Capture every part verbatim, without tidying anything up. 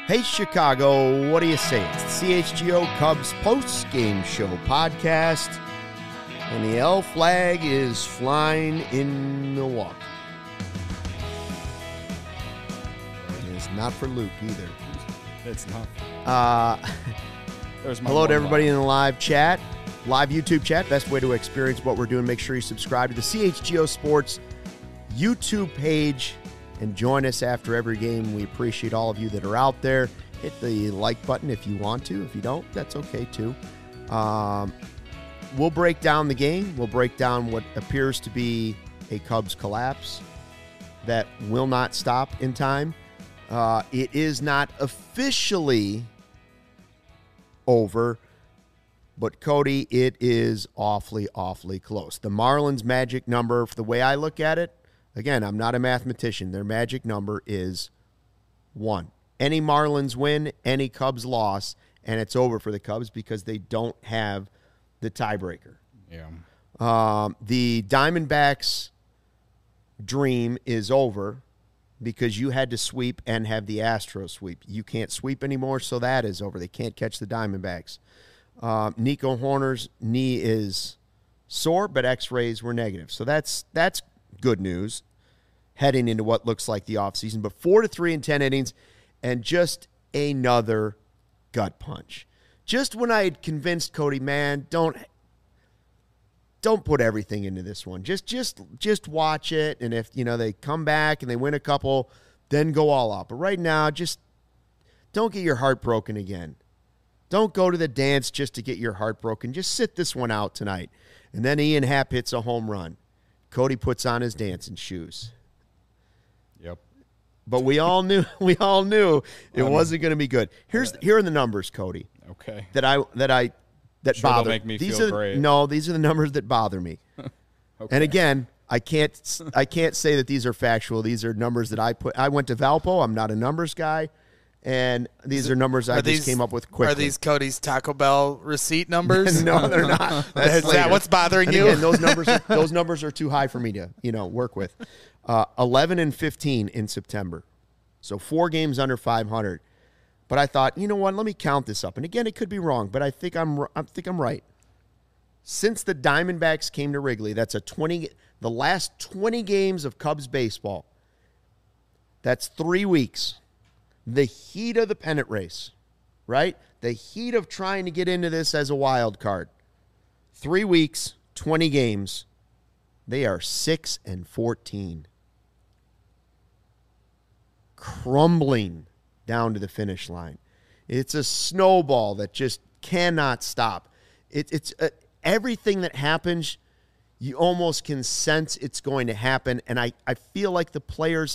Hey, Chicago, what do you say? It's the C H G O Cubs post-game show podcast, and the L flag is flying in Milwaukee. And it's not for Luke either. It's not. Uh, hello to everybody in the live chat, live YouTube chat. Best way to experience what we're doing. Make sure you subscribe to the C H G O Sports YouTube page and join us after every game. We appreciate all of you that are out there. Hit the like button if you want to. If you don't, that's okay too. Um, we'll break down the game. We'll break down what appears to be a Cubs collapse that will not stop in time. Uh, it is not officially over, but Cody, it is awfully, awfully close. The Marlins' magic number, the way I look at it, again, I'm not a mathematician. Their magic number is one. Any Marlins win, any Cubs loss, and it's over for the Cubs because they don't have the tiebreaker. Yeah. Um, the Diamondbacks' dream is over because you had to sweep and have the Astros sweep. You can't sweep anymore, so that is over. They can't catch the Diamondbacks. Um, Nico Horner's knee is sore, but x-rays were negative. So that's that's good news heading into what looks like the offseason. But four to three in ten innings and just another gut punch. Just when I had convinced Cody, man, don't don't put everything into this one. Just just just watch it, and if you know they come back and they win a couple, then go all out. But right now, just don't get your heart broken again. Don't go to the dance just to get your heart broken. Just sit this one out tonight. And then Ian Happ hits a home run. Cody puts on his dancing shoes. Yep. But we all knew we all knew it um, wasn't going to be good. Here's here are the numbers, Cody. Okay. That I that I that sure bother make me these feel are great. no, these are the numbers that bother me. Okay. And again, I can't I can't say that these are factual. These are numbers that I put. I went to Valpo. I'm not a numbers guy. And these are numbers I are just these, came up with quickly. Are these Cody's Taco Bell receipt numbers? No, they're not. That's Is that what's bothering and you? Again, those numbers, are, those numbers are too high for me to, you know, work with. Uh, Eleven and fifteen in September, so four games under five hundred. But I thought, you know what? Let me count this up. And again, it could be wrong, but I think I'm, I think I'm right. Since the Diamondbacks came to Wrigley, that's a twenty. The last twenty games of Cubs baseball. That's three weeks. The heat of the pennant race, right? The heat of trying to get into this as a wild card. Three weeks, twenty games. They are six and fourteen. Crumbling down to the finish line. It's a snowball that just cannot stop. It, it's uh, everything that happens, you almost can sense it's going to happen. And I, I feel like the players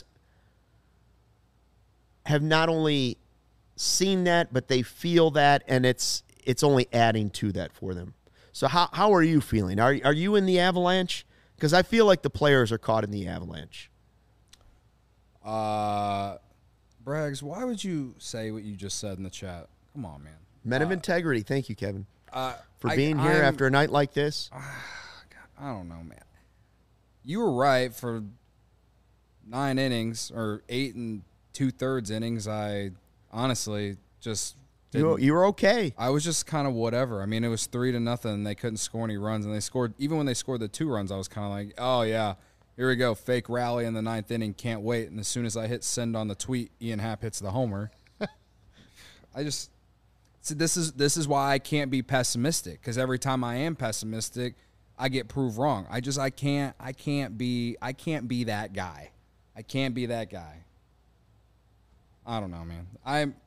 have not only seen that, but they feel that, and it's it's only adding to that for them. So how how are you feeling? Are are you in the avalanche? Because I feel like the players are caught in the avalanche. Uh, Braggs, why would you say what you just said in the chat? Come on, man. Men of uh, integrity. Thank you, Kevin, uh, for I, being here I'm, after a night like this. Uh, God, I don't know, man. You were right for nine innings or eight and two-thirds innings. I honestly just you, you were okay. I was just kind of whatever. I mean, it was three to nothing. They couldn't score any runs, and they scored. Even when they scored the two runs, I was kind of like, oh, yeah, here we go. Fake rally in the ninth inning. Can't wait. And as soon as I hit send on the tweet, Ian Happ hits the homer. I just so this is this is why I can't be pessimistic, because every time I am pessimistic, I get proved wrong. I just I can't I can't be I can't be that guy. I can't be that guy. I don't know, man. I'm.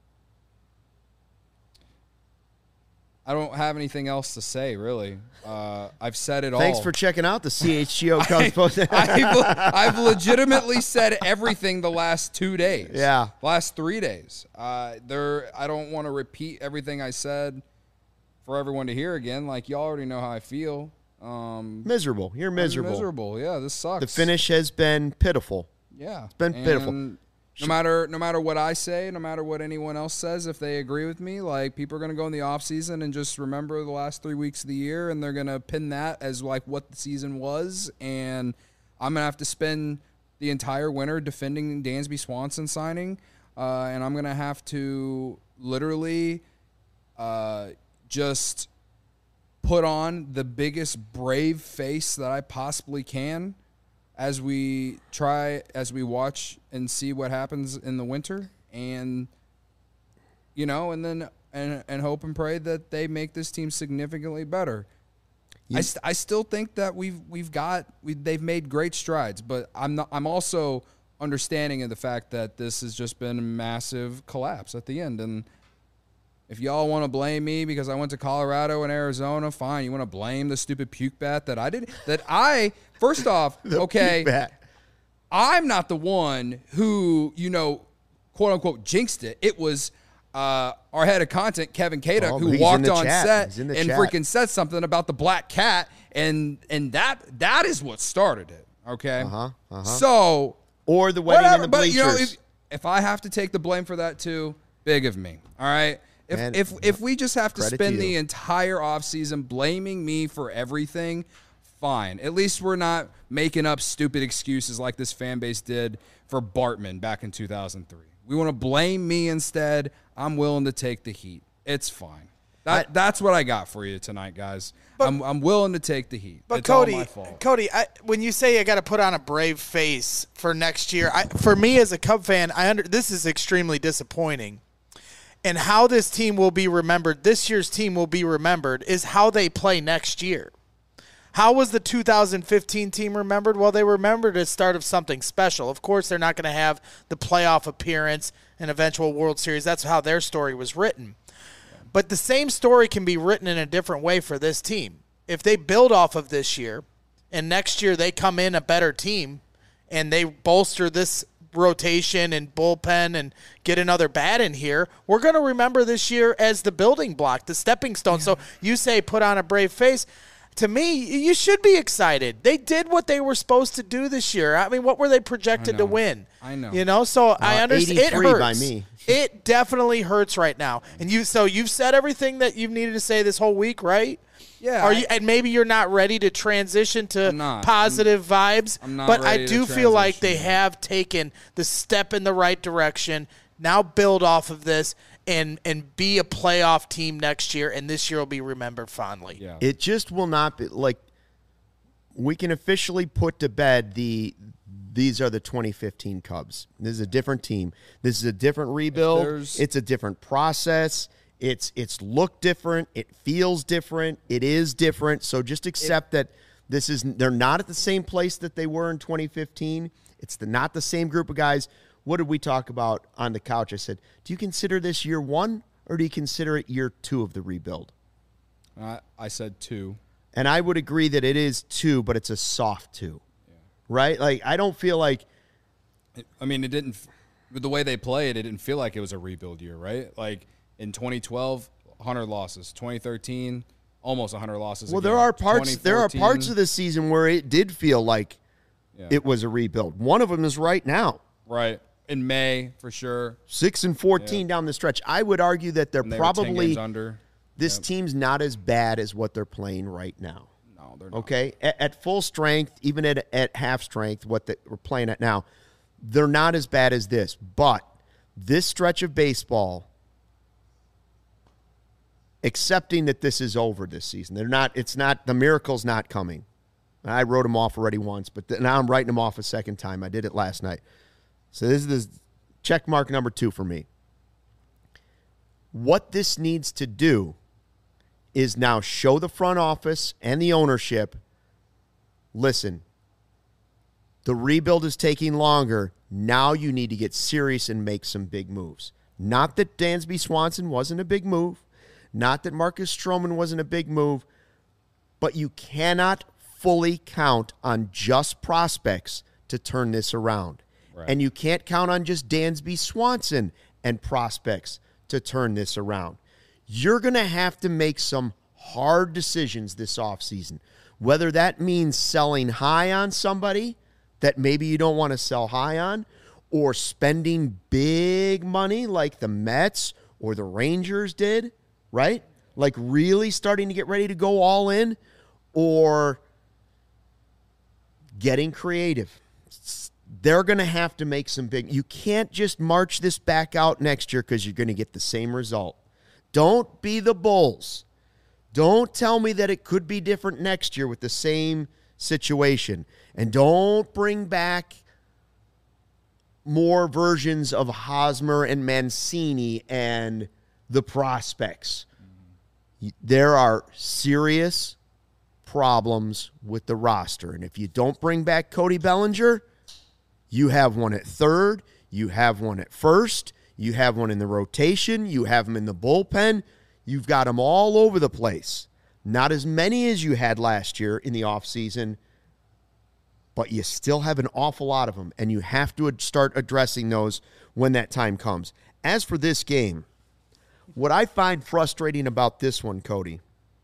I don't have anything else to say, really. Uh, I've said it all. Thanks for checking out the C H G O Cubs post. I've, I've legitimately said everything the last two days. Yeah. Last three days. Uh, there. I don't want to repeat everything I said for everyone to hear again. Like, y'all already know how I feel. Um, miserable. You're miserable. I'm miserable. Yeah, this sucks. The finish has been pitiful. Yeah. It's been and pitiful. No matter no matter what I say, no matter what anyone else says, if they agree with me, like, people are going to go in the offseason and just remember the last three weeks of the year, and they're going to pin that as, like, what the season was. And I'm going to have to spend the entire winter defending Dansby Swanson signing. uh, and I'm gonna have to literally uh, just put on the biggest brave face that I possibly can as we try, as we watch and see what happens in the winter, and you know, and then and and hope and pray that they make this team significantly better. You, I, st- I still think that we've we've got we they've made great strides, but I'm not. I'm also understanding of the fact that this has just been a massive collapse at the end. And if y'all want to blame me because I went to Colorado and Arizona, fine. You want to blame the stupid puke bat that I did? That I first off, okay, I'm not the one who you know, quote unquote, jinxed it. It was. Uh, our head of content, Kevin Kaduk, oh, who walked on chat. set and chat. freaking said something about the black cat, and and that that is what started it. Okay, uh-huh, uh-huh. so or the wedding whatever, in the bleachers. But you know, if, if I have to take the blame for that too, big of me. All right, if Man, if if we just have to spend to the entire offseason blaming me for everything, fine. At least we're not making up stupid excuses like this fan base did for Bartman back in two thousand three. We want to blame me instead. I'm willing to take the heat. It's fine. That, I, that's what I got for you tonight, guys. But, I'm I'm willing to take the heat. But it's Cody, all my fault. Cody, I, when you say I got to put on a brave face for next year, I, for me as a Cub fan, I under this is extremely disappointing. And how this team will be remembered, this year's team will be remembered, is how they play next year. How was the two thousand fifteen team remembered? Well, they were remembered as start of something special. Of course, they're not going to have the playoff appearance and eventual World Series. That's how their story was written. But the same story can be written in a different way for this team. If they build off of this year, and next year they come in a better team, and they bolster this rotation and bullpen and get another bat in here, we're going to remember this year as the building block, the stepping stone. Yeah. So you say put on a brave face. To me, you should be excited. They did what they were supposed to do this year. I mean, what were they projected to win? I know. You know, so uh, I understand. It hurts. By me. It definitely hurts right now. And you, so you've said everything that you've needed to say this whole week, right? Yeah. Are I, you? And maybe you're not ready to transition to positive I'm, vibes. I'm not but ready I do to feel like they yet. have taken the step in the right direction. Now build off of this. And and be a playoff team next year, and this year will be remembered fondly. Yeah. It just will not be like we can officially put to bed the these are the twenty fifteen Cubs. This is a different team. This is a different rebuild. It's a different process. It's it's look different. It feels different. It is different. So just accept it, that this is they're not at the same place that they were in twenty fifteen. It's the, not the same group of guys. What did we talk about on the couch? I said, do you consider this year one or do you consider it year two of the rebuild? Uh, I said two. And I would agree that it is two, but it's a soft two, yeah. Right? Like, I don't feel like. I mean, it didn't, with the way they played, it didn't feel like it was a rebuild year, right? Like in twenty twelve, one hundred losses. twenty thirteen, almost one hundred losses. Well, again. there are parts. There are parts of the season where it did feel like yeah. it was a rebuild. One of them is right now. Right. In May, for sure. six and fourteen yeah. down the stretch. I would argue that they're they probably under. This yep. team's not as bad as what they're playing right now. No, they're not. Okay? At, at full strength, even at, at half strength, what the, we're playing at now, they're not as bad as this. But this stretch of baseball, accepting that this is over this season, they're not. It's not. The miracle's not coming. I wrote them off already once, but th- now I'm writing them off a second time. I did it last night. So this is the check mark number two for me. What this needs to do is now show the front office and the ownership, listen, the rebuild is taking longer. Now you need to get serious and make some big moves. Not that Dansby Swanson wasn't a big move. Not that Marcus Stroman wasn't a big move. But you cannot fully count on just prospects to turn this around. Right. And you can't count on just Dansby Swanson and prospects to turn this around. You're going to have to make some hard decisions this offseason, whether that means selling high on somebody that maybe you don't want to sell high on, or spending big money like the Mets or the Rangers did, right? Like really starting to get ready to go all in, or getting creative. they're going to have to make some big. You can't just march this back out next year because you're going to get the same result. Don't be the Bulls. Don't tell me that it could be different next year with the same situation. And don't bring back more versions of Hosmer and Mancini and the prospects. There are serious problems with the roster. And if you don't bring back Cody Bellinger, you have one at third, you have one at first, you have one in the rotation, you have them in the bullpen. You've got them all over the place. Not as many as you had last year in the offseason, but you still have an awful lot of them, and you have to start addressing those when that time comes. As for this game, what I find frustrating about this one, Cody,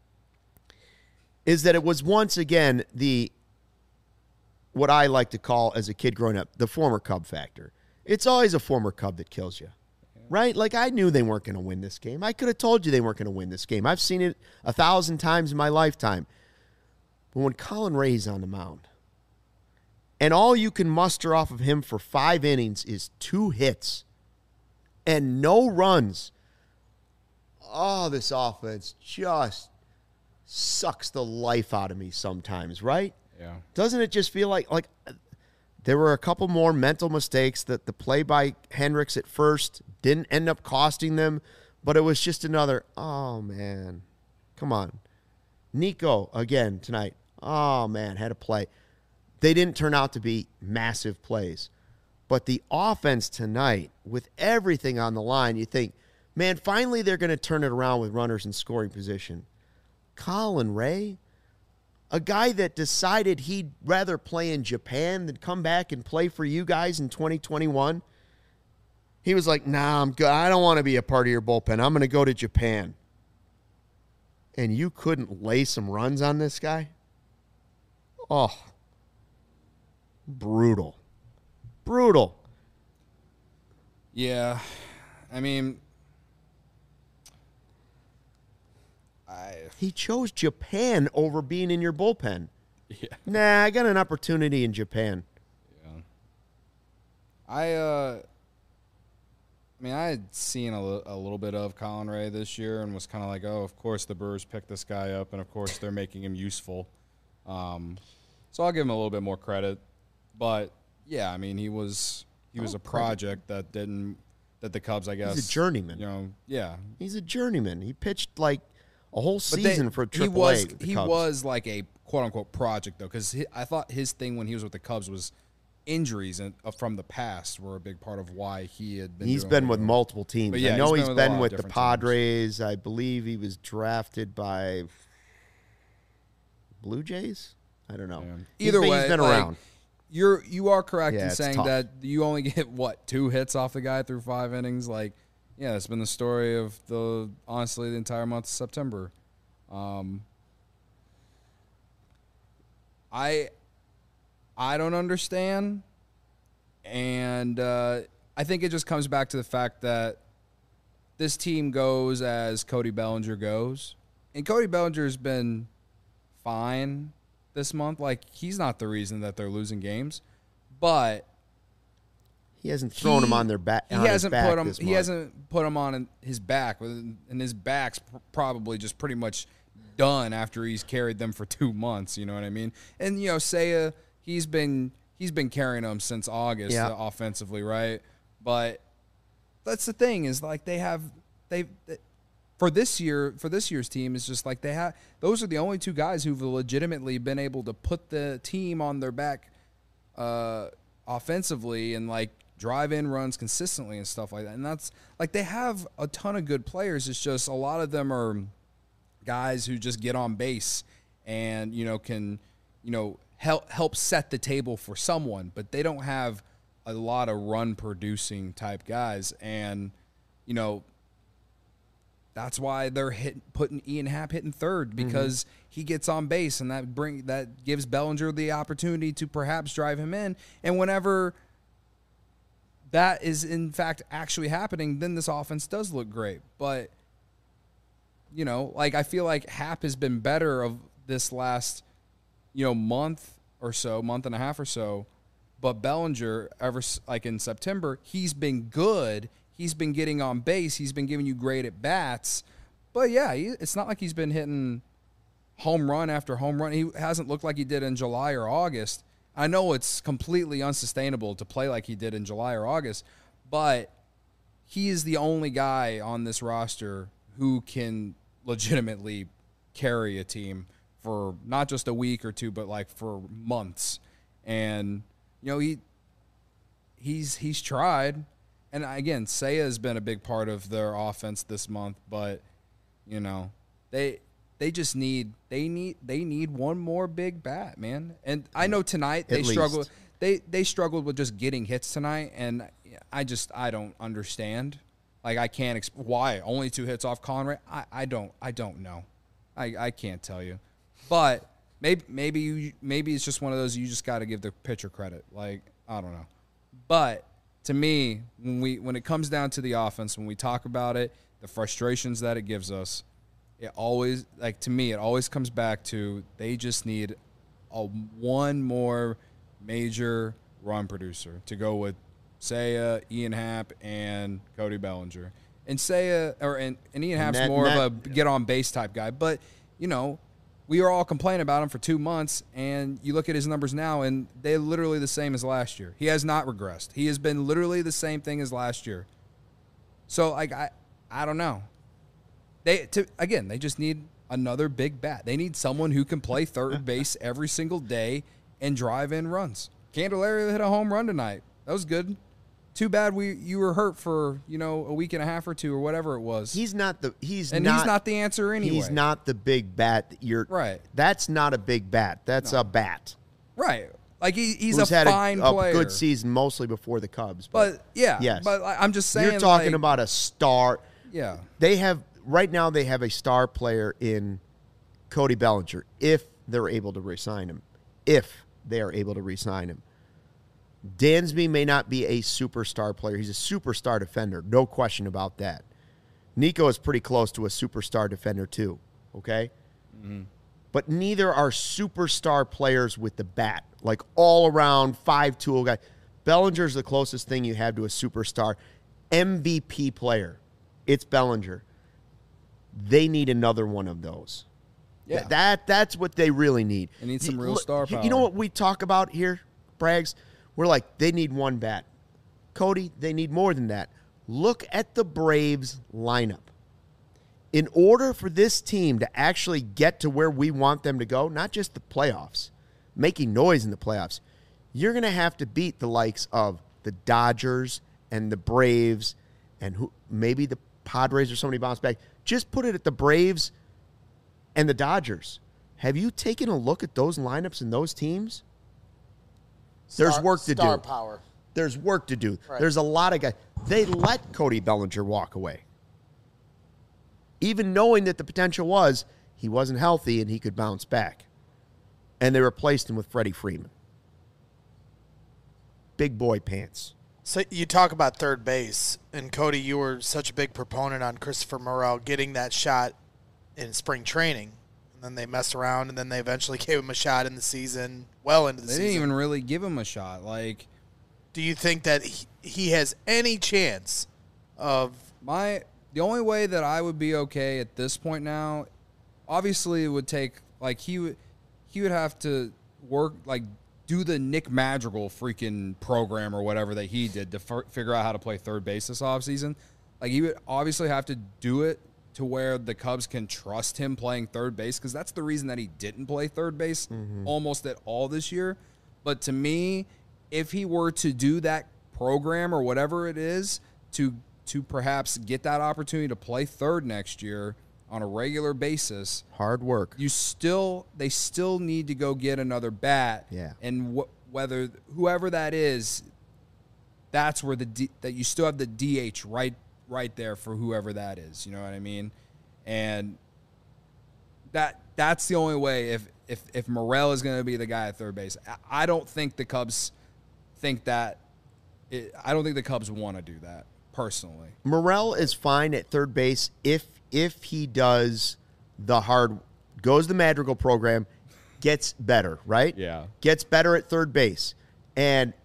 is that it was once again the what I like to call, as a kid growing up, the former Cub factor. It's always a former Cub that kills you, right? Like, I knew they weren't going to win this game. I could have told you they weren't going to win this game. I've seen it a thousand times in my lifetime. But when Colin Ray's on the mound, and all you can muster off of him for five innings is two hits and no runs, oh, this offense just sucks the life out of me sometimes, right? Yeah. Doesn't it just feel like like there were a couple more mental mistakes that the play by Hendricks at first didn't end up costing them, but it was just another, oh, man, come on. Nico, again, tonight, oh, man, had a play. They didn't turn out to be massive plays. But the offense tonight, with everything on the line, you think, man, finally they're going to turn it around with runners in scoring position. Colin Ray, a guy that decided he'd rather play in Japan than come back and play for you guys in twenty twenty-one. He was like, nah, I'm good. I don't want to be a part of your bullpen. I'm going to go to Japan. And you couldn't lay some runs on this guy? Oh, brutal. Brutal. Yeah. I mean, I He chose Japan over being in your bullpen. yeah. Nah, I got an opportunity in Japan. Yeah. I uh I mean, I had seen a, li- a little bit of Colin Ray this year and was kind of like, oh, of course the Brewers picked this guy up, and of course they're making him useful. Um, so I'll give him a little bit more credit. But yeah, I mean, he was he was Oh, a project that didn't that the Cubs, I guess, He's a journeyman. You know, yeah. He's a journeyman. He pitched like a whole But they- season for Triple he was A with the he Cubs. was like a quote unquote project though, because I thought his thing when he was with the Cubs was injuries and uh, from the past were a big part of why he had been. He's doing been what with he was. multiple teams. But yeah, I know he's he's been with a been lot of with the different Padres. I believe he was drafted by Blue Jays. I don't know. Yeah. He's Either been- way, he's been like, around. You're you are correct Yeah, in it's saying tough. that you only get what two hits off the guy through five innings. Like, yeah, that's been the story of the honestly the entire month of September. Um, I I don't understand, and uh, I think it just comes back to the fact that this team goes as Cody Bellinger goes, and Cody Bellinger's been fine this month. Like, he's not the reason that they're losing games, but He hasn't thrown he- him on their back. He on his hasn't back put him. this He month. hasn't put him on his back, and his back's pr- probably just pretty much done after he's carried them for two months. You know what I mean? And you know, Seiya, he's been he's been carrying them since August Yeah. uh, offensively, right? But that's the thing is like they have they. they For this year, for this year's team, is just like they have. Those are the only two guys who've legitimately been able to put the team on their back, uh, offensively and like drive in runs consistently and stuff like that. And that's like they have a ton of good players. It's just a lot of them are guys who just get on base and you know can you know help help set the table for someone, but they don't have a lot of run producing type guys. And you know. That's why they're hit, putting Ian Happ hitting third because mm-hmm. he gets on base and that bring that gives Bellinger the opportunity to perhaps drive him in. And whenever that is in fact actually happening, then this offense does look great. But you know, like I feel like Happ has been better of this last you know month or so, month and a half or so. But Bellinger, ever s- like in September, he's been good. He's been getting on base. He's been giving you great at bats. But yeah, he, it's not like he's been hitting home run after home run. He hasn't looked like he did in July or August. I know it's completely unsustainable to play like he did in July or August, but he is the only guy on this roster who can legitimately carry a team for not just a week or two, but like for months. And you know, he he's he's tried. And again, Seiya has been a big part of their offense this month, but you know, they they just need they need they need one more big bat, man. And I know tonight they At struggled least. they they struggled with just getting hits tonight, and I just I don't understand. Like I can't exp- why only two hits off Conrad. I, I don't I don't know. I, I can't tell you, but maybe maybe you maybe it's just one of those you just got to give the pitcher credit. Like I don't know, but to me when we when it comes down to the offense, when we talk about it, the frustrations that it gives us, it always like to me it always comes back to they just need a one more major run producer to go with Seiya, Ian Happ, and Cody Bellinger. And Seiya or and, and Ian Happ's that- more that- of a get on base type guy. But, you know, we were all complaining about him for two months, and you look at his numbers now, and they're literally the same as last year. He has not regressed. He has been literally the same thing as last year. So, like, I I don't know. They to, Again, they just need another big bat. They need someone who can play third base every single day and drive in runs. Candelario hit a home run tonight. That was good. Too bad we you were hurt for, you know, a week and a half or two or whatever it was. He's not the he's and not, he's not the answer anyway. He's not the big bat that you're Right. That's not a big bat. That's No. a bat. Right. Like he, he's Who's a had fine a, player. a good season mostly before the Cubs. But yeah, yes. but I- I'm just saying You're talking like, about a star. yeah. They have right now they have a star player in Cody Bellinger if they're able to re-sign him. If they are able to re-sign him. Dansby may not be a superstar player. He's a superstar defender. No question about that. Nico is pretty close to a superstar defender too, okay? Mm-hmm. But neither are superstar players with the bat, like all-around five-tool guy. Bellinger's the closest thing you have to a superstar. M V P player. It's Bellinger. They need another one of those. Yeah. Th- That That's what they really need. They need some You- real look, star you- You know power. what we talk about here, Braggs? We're like, they need one bat. Cody, they need more than that. Look at the Braves lineup. In order for this team to actually get to where we want them to go, not just the playoffs, making noise in the playoffs, you're going to have to beat the likes of the Dodgers and the Braves and who maybe the Padres or somebody bounce back. Just put it at the Braves and the Dodgers. Have you taken a look at those lineups and those teams? There's Star- work to star do. power. There's work to do. Right. There's a lot of guys. They let Cody Bellinger walk away. Even knowing that the potential was he wasn't healthy and he could bounce back. And they replaced him with Freddie Freeman. Big boy pants. So you talk about third base, and Cody, you were such a big proponent on Christopher Morel getting that shot in spring training, and then they messed around, and then they eventually gave him a shot in the season, well into the They season. didn't even really give him a shot. Like Do you think that he, he has any chance of? my the only way that I would be okay at this point now, obviously it would take like he would he would have to work like do the Nick Madrigal freaking program or whatever that he did to f- figure out how to play third base this offseason. Like he would obviously have to do it to where the Cubs can trust him playing third base, because that's the reason that he didn't play third base almost at all this year. But to me, if he were to do that program or whatever it is to to perhaps get that opportunity to play third next year on a regular basis, Hard work. you still they still need to go get another bat. Yeah. And wh- whether whoever that is, that's where the D, that you still have the D H right right there for whoever that is. You know what I mean? And that that's the only way if if if Morel is going to be the guy at third base. I, I don't think the Cubs think that. It, I don't think the Cubs want to do that personally. Morel is fine at third base if if he does the hard goes the Madrigal program, gets better, right? Yeah. Gets better at third base. And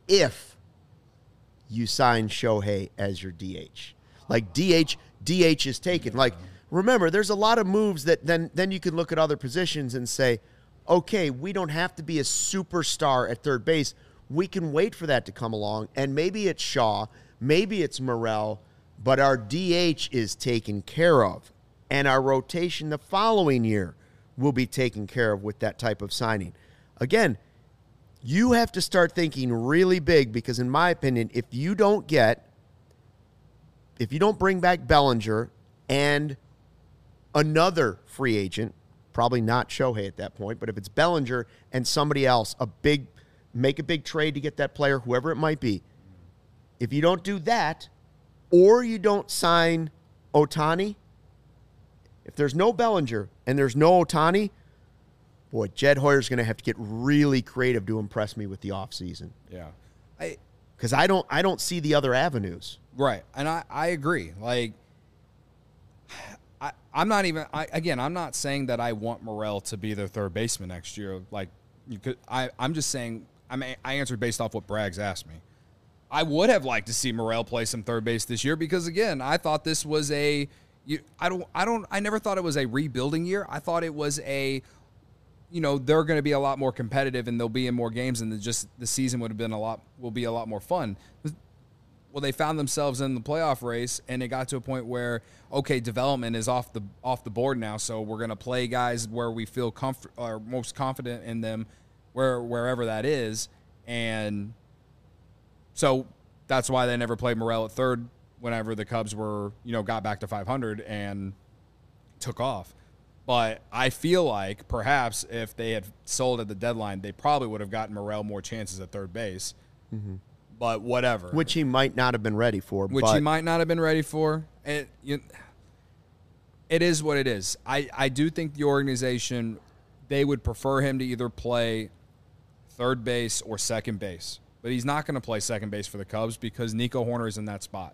if you sign Shohei as your D H. Like D H, D H is taken. Like, remember, there's a lot of moves that then then you can look at other positions and say, okay, we don't have to be a superstar at third base. We can wait for that to come along, and maybe it's Shaw, maybe it's Morel, but our D H is taken care of, and our rotation the following year will be taken care of with that type of signing. Again, you have to start thinking really big because, in my opinion, if you don't get, if you don't bring back Bellinger and another free agent, probably not Shohei at that point, but if it's Bellinger and somebody else, a big, make a big trade to get that player, whoever it might be. If you don't do that, or you don't sign Ohtani, if there's no Bellinger and there's no Ohtani, boy, Jed Hoyer's going to have to get really creative to impress me with the offseason. Yeah. I Because I don't, I don't see the other avenues. Right. And I, I agree. Like, I, I'm not even, I, again, I'm not saying that I want Morel to be their third baseman next year. Like, you could, I, I'm just saying, I mean, I answered based off what Braggs asked me. I would have liked to see Morel play some third base this year because, again, I thought this was a, you, I don't, I don't, I never thought it was a rebuilding year. I thought it was a, you know, they're going to be a lot more competitive and they'll be in more games and the, just the season would have been a lot, will be a lot more fun. Well, they found themselves in the playoff race and it got to a point where, okay, development is off the off the board now, so we're going to play guys where we feel comfort or most confident in them, where wherever that is, and so that's why they never played Morel at third whenever the Cubs were, you know, got back to five hundred and took off. But I feel like perhaps if they had sold at the deadline, they probably would have gotten Morel more chances at third base. Mm-hmm. But whatever. Which he might not have been ready for. Which but. he might not have been ready for. It, you, it is what it is. I, I do think the organization, they would prefer him to either play third base or second base. But he's not going to play second base for the Cubs because Nico Hoerner is in that spot.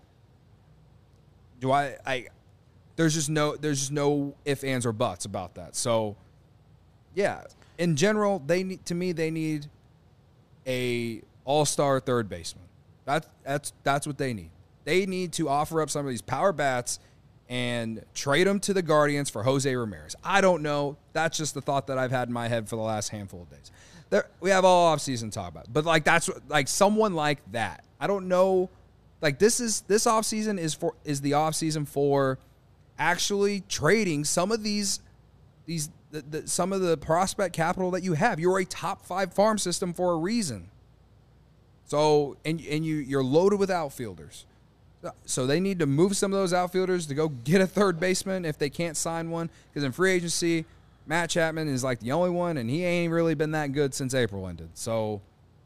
Do I I there's just no there's just no ifs, ands, or buts about that. So yeah. In general, they need to me they need a all-star third baseman. That's that's that's what they need. They need to offer up some of these power bats and trade them to the Guardians for Jose Ramirez. I don't know. That's just the thought that I've had in my head for the last handful of days. There, we have all offseason to talk about. But like that's like someone like that. I don't know. Like this is this offseason is for is the offseason for actually trading some of these these the, the, some of the prospect capital that you have. You're a top five farm system for a reason. So, and and you, you're loaded with outfielders. So they need to move some of those outfielders to go get a third baseman if they can't sign one. Because in free agency, Matt Chapman is like the only one, and he ain't really been that good since April ended. So,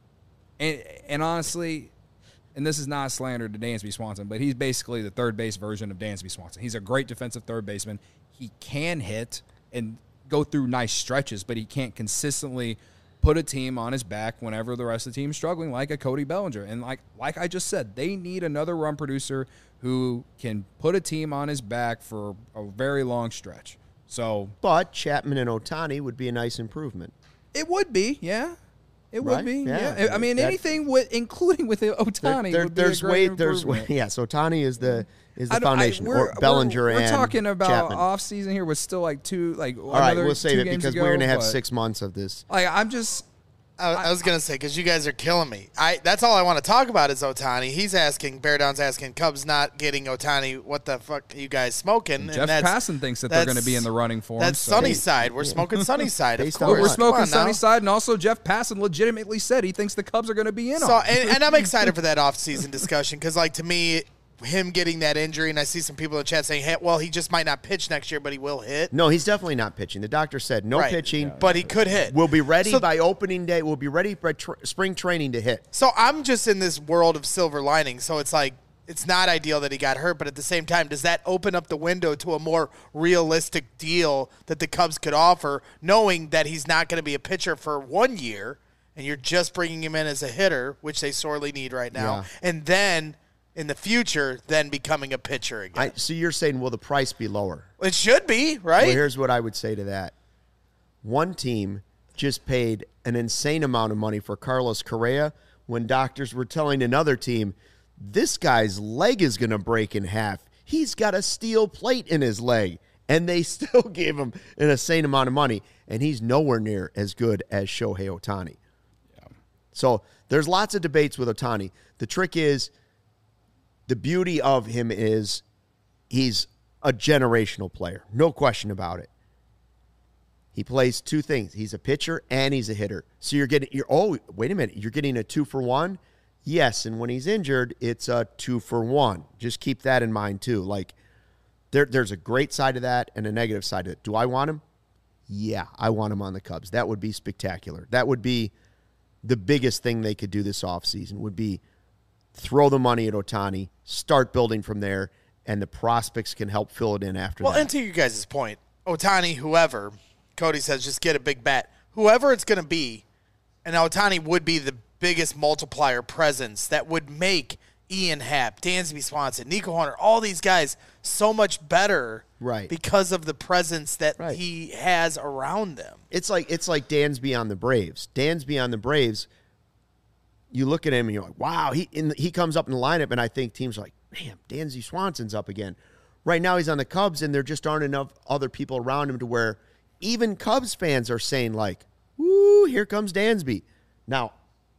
and, and honestly, and this is not a slander to Dansby Swanson, but he's basically the third base version of Dansby Swanson. He's a great defensive third baseman. He can hit and go through nice stretches, but he can't consistently put a team on his back whenever the rest of the team's struggling, like a Cody Bellinger. And like like I just said, they need another run producer who can put a team on his back for a very long stretch. So, but Chapman and Ohtani would be a nice improvement. It would be, yeah. It right? would be, yeah. yeah. I mean, that, anything with, including with Ohtani, there, there, would be there's a great way, there's way, yes. Ohtani is the is the I foundation. I, we're, or Bellinger we're, and we're talking about Chapman. off season here. Was still like two, like all right. We'll save it games because ago, we're going to have but, six months of this. Like I'm just. I, I was gonna say because you guys are killing me. I that's all I want to talk about is Ohtani. He's asking Bear Down's asking Cubs not getting Ohtani. What the fuck are you guys smoking? And Jeff Passan thinks that they're going to be in the running for him. That's so. Sunnyside. We're smoking Sunnyside. Of course, we're smoking on Sunnyside, and also Jeff Passan legitimately said he thinks the Cubs are going to be in so, on. And, and I'm excited for that off-season discussion because, like, to me, him getting that injury, and I see some people in the chat saying, hey, well, he just might not pitch next year, but he will hit. No, he's definitely not pitching. The doctor said no right. pitching. Yeah, but he could hit. We'll be ready so, by opening day. We'll be ready by tr- spring training to hit. So I'm just in this world of silver lining. So it's like, it's not ideal that he got hurt, but at the same time, does that open up the window to a more realistic deal that the Cubs could offer, knowing that he's not going to be a pitcher for one year, and you're just bringing him in as a hitter, which they sorely need right now, Yeah. and then in the future, then becoming a pitcher again. I, so you're saying, will the price be lower? It should be, right? Well, here's what I would say to that. One team just paid an insane amount of money for Carlos Correa when doctors were telling another team, this guy's leg is going to break in half. He's got a steel plate in his leg. And they still gave him an insane amount of money. And he's nowhere near as good as Shohei Ohtani. Yeah. So there's lots of debates with Ohtani. The trick is, the beauty of him is he's a generational player. No question about it. He plays two things. He's a pitcher and he's a hitter. So you're getting, you're, oh, wait a minute. You're getting a two for one? Yes. And when he's injured, it's a two for one. Just keep that in mind too. Like, There, there's a great side of that and a negative side of it. Do I want him? Yeah, I want him on the Cubs. That would be spectacular. That would be the biggest thing they could do this offseason, would be throw the money at Ohtani, start building from there, and the prospects can help fill it in after well, that. Well, and to you guys' point, Ohtani, whoever, Cody says just get a big bat. Whoever it's going to be, and Ohtani would be the biggest multiplier presence that would make Ian Happ, Dansby Swanson, Nico Hunter, all these guys so much better, right? Because of the presence that right. he has around them. It's like it's like Dansby on the Braves. Dansby on the Braves. You look at him and you're like, wow. He in the, he comes up in the lineup, and I think teams are like, man, Dansby Swanson's up again. Right now he's on the Cubs, and there just aren't enough other people around him to where even Cubs fans are saying like, woo, here comes Dansby. Now,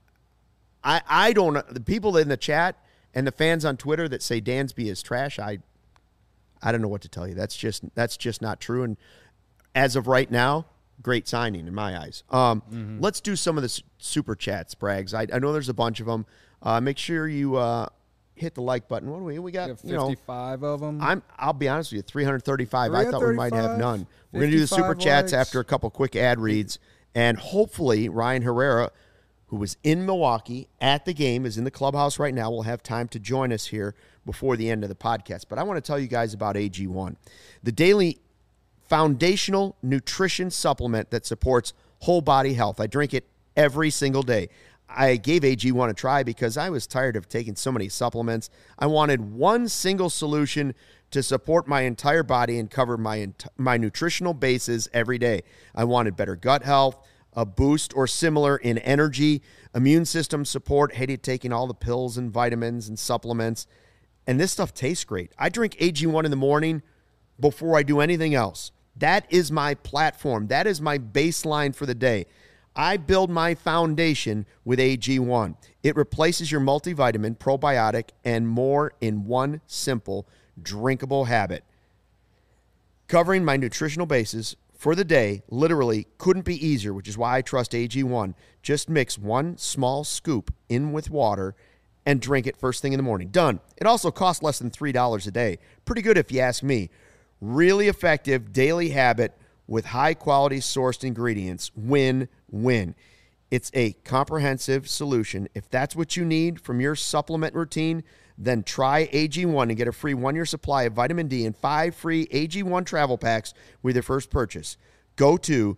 I I don't know the people in the chat. And the fans on Twitter that say Dansby is trash, I I don't know what to tell you. That's just that's just not true. And as of right now, great signing in my eyes. Um, mm-hmm. Let's do some of the super chats, Braggs. I, I know there's a bunch of them. Uh, make sure you uh, hit the like button. What do we we got? We have fifty-five you know, of them. I'm I'll be honest with you, three hundred thirty-five. I thought we might have none. We're gonna do the super likes. chats after a couple quick ad reads, and hopefully Ryan Herrera, who was in Milwaukee at the game, is in the clubhouse right now, will have time to join us here before the end of the podcast. But I want to tell you guys about A G one, the daily foundational nutrition supplement that supports whole body health. I drink it every single day. I gave A G one a try because I was tired of taking so many supplements. I wanted one single solution to support my entire body and cover my ent- my nutritional bases every day. I wanted better gut health, a boost or similar in energy, immune system support, hated taking all the pills and vitamins and supplements. And this stuff tastes great. I drink A G one in the morning before I do anything else. That is my platform. That is my baseline for the day. I build my foundation with A G one. It replaces your multivitamin, probiotic, and more in one simple, drinkable habit. Covering my nutritional bases for the day literally couldn't be easier, which is why I trust A G one. Just mix one small scoop in with water and drink it first thing in the morning. Done. It also costs less than three dollars a day. Pretty good if you ask me. Really effective daily habit with high-quality sourced ingredients. Win-win. It's a comprehensive solution. If that's what you need from your supplement routine, then try A G one and get a free one-year supply of vitamin D and five free A G one travel packs with your first purchase. Go to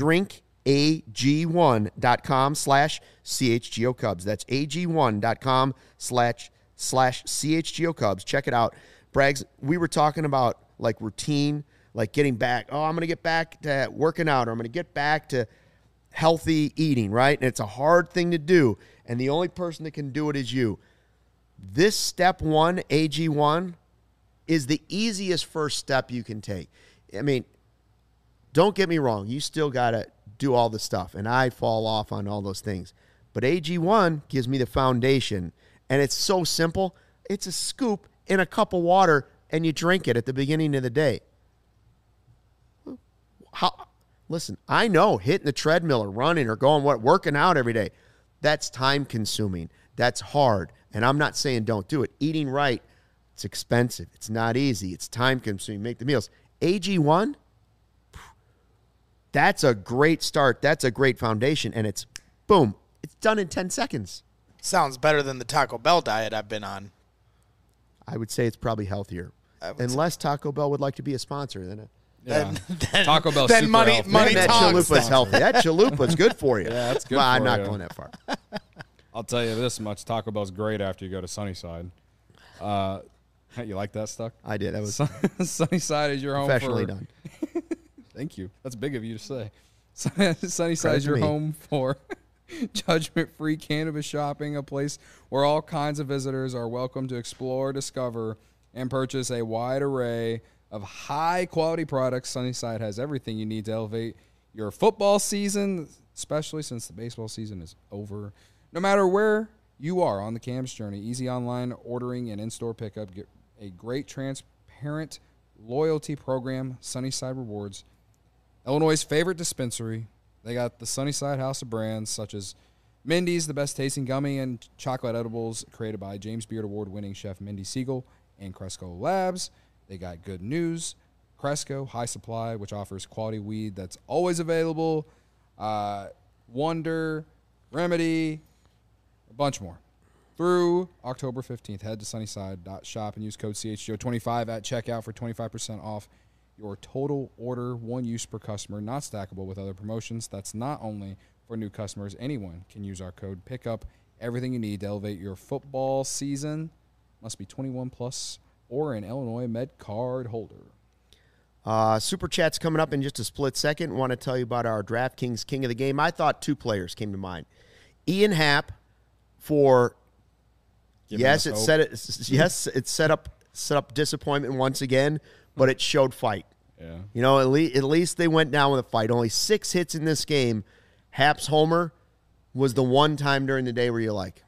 drinkag1.com slash CHGO Cubs. That's ag1.com slash slash CHGO Cubs. Check it out. Braggs, we were talking about like routine, like getting back. Oh, I'm going to get back to working out, or I'm going to get back to healthy eating, right? And it's a hard thing to do, and the only person that can do it is you. This step one, A G one, is the easiest first step you can take. I mean, don't get me wrong. You still got to do all the stuff, and I fall off on all those things. But A G one gives me the foundation, and it's so simple. It's a scoop in a cup of water, and you drink it at the beginning of the day. How? Listen, I know hitting the treadmill or running or going, what, working out every day, that's time-consuming. That's hard. And I'm not saying don't do it. Eating right, it's expensive. It's not easy. It's time-consuming. Make the meals. A G one, that's a great start. That's a great foundation. And it's, boom, it's done in ten seconds. Sounds better than the Taco Bell diet I've been on. I would say it's probably healthier. Unless Taco Bell would like to be a sponsor. Then, yeah. then, then Taco Bell then super money, healthy. money that talks. chalupa's healthy. That chalupa's good for you. Yeah, that's good well, for I'm not you. going that far. I'll tell you this much: Taco Bell's great after you go to Sunnyside. Uh, you like that stuff? I did. That was Sunnyside is your home. professionally for, done. Thank you. That's big of you to say. Sunnyside Credit is to your me. home for Judgment-free cannabis shopping, a place where all kinds of visitors are welcome to explore, discover, and purchase a wide array of high-quality products. Sunnyside has everything you need to elevate your football season, especially since the baseball season is over. No matter where you are on the Cam's journey, easy online ordering and in-store pickup, get a great transparent loyalty program, Sunnyside Rewards. Illinois' favorite dispensary. They got the Sunnyside House of brands such as Mindy's, the best tasting gummy and chocolate edibles created by James Beard Award-winning chef Mindy Siegel and Cresco Labs. They got Good News, Cresco, High Supply, which offers quality weed that's always available, uh, Wonder, Remedy, a bunch more. Through October fifteenth, head to sunnyside dot shop and use code C H G O twenty-five at checkout for twenty-five percent off your total order, one use per customer, not stackable with other promotions. That's not only for new customers. Anyone can use our code. Pick up everything you need to elevate your football season. Must be twenty-one plus or an Illinois Med card holder. Uh, Super Chat's coming up in just a split second. Want to tell you about our DraftKings King of the Game. I thought two players came to mind. Ian Happ for Giving yes, us it hope. set it yes, it set up set up disappointment once again, but it showed fight. Yeah. You know, at least, at least they went down with a fight. Only six hits in this game. Happ's homer was the one time during the day where you're like,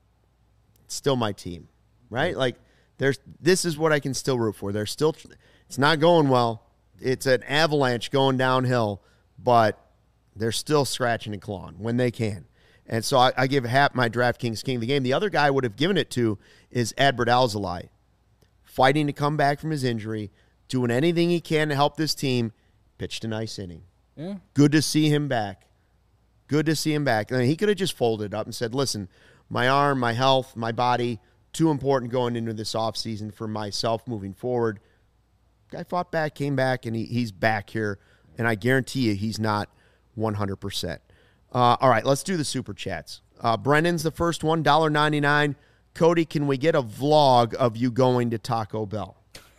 it's still my team, right? Like, there's this is what I can still root for. They're still, it's not going well. It's an avalanche going downhill, but they're still scratching and clawing when they can. And so I, I give Hap my DraftKings King of the Game. The other guy I would have given it to is Adbert Alzolay, fighting to come back from his injury, doing anything he can to help this team. Pitched a nice inning. Yeah. Good to see him back. Good to see him back. I mean, he could have just folded up and said, listen, my arm, my health, my body, too important going into this offseason for myself moving forward. Guy fought back, came back, and he, he's back here. And I guarantee you he's not one hundred percent. Uh, all right, let's do the Super Chats. Uh, Brennan's the first one, one dollar and ninety-nine cents. Cody, can we get a vlog of you going to Taco Bell?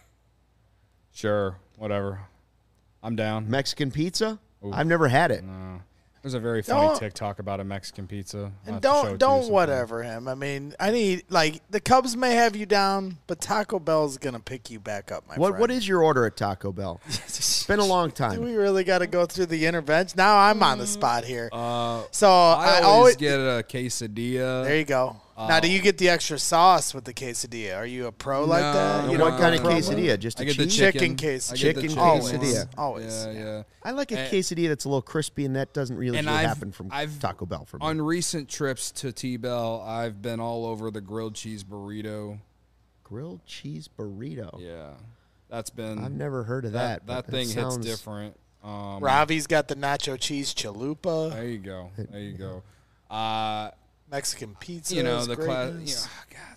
Sure. Whatever. I'm down. Mexican pizza? Oof. I've never had it. No. There's a very funny Don't- TikTok about a Mexican pizza. I'll And have to show it don't to you don't sometime. whatever him. I mean, I need like the Cubs may have you down, but Taco Bell's gonna pick you back up, my What friend. What is your order at Taco Bell? It's been a long Do time. we really got to go through the intervention? Now I'm on the spot here. Uh, so I, I, always always get a quesadilla. there you go. now, do you get the extra sauce with the quesadilla? Are you a pro like No, that? no, You what don't kind go of pro? quesadilla? Just a I get the cheese? Chicken chicken. quesadilla. I get the Chicken Always, quesadilla. always. Yeah, yeah. I like a And- quesadilla that's a little crispy, and that doesn't really And usually I've- happen from I've- Taco Bell for me. On recent trips to T-Bell, I've been all over the grilled cheese burrito. Grilled cheese burrito. Yeah. That's been... I've never heard of that. that. That, but thing sounds, hits different. Um, Ravi's got the nacho cheese chalupa, There you go. There you go. Uh, Mexican pizza. you know, the class... You know, oh, God.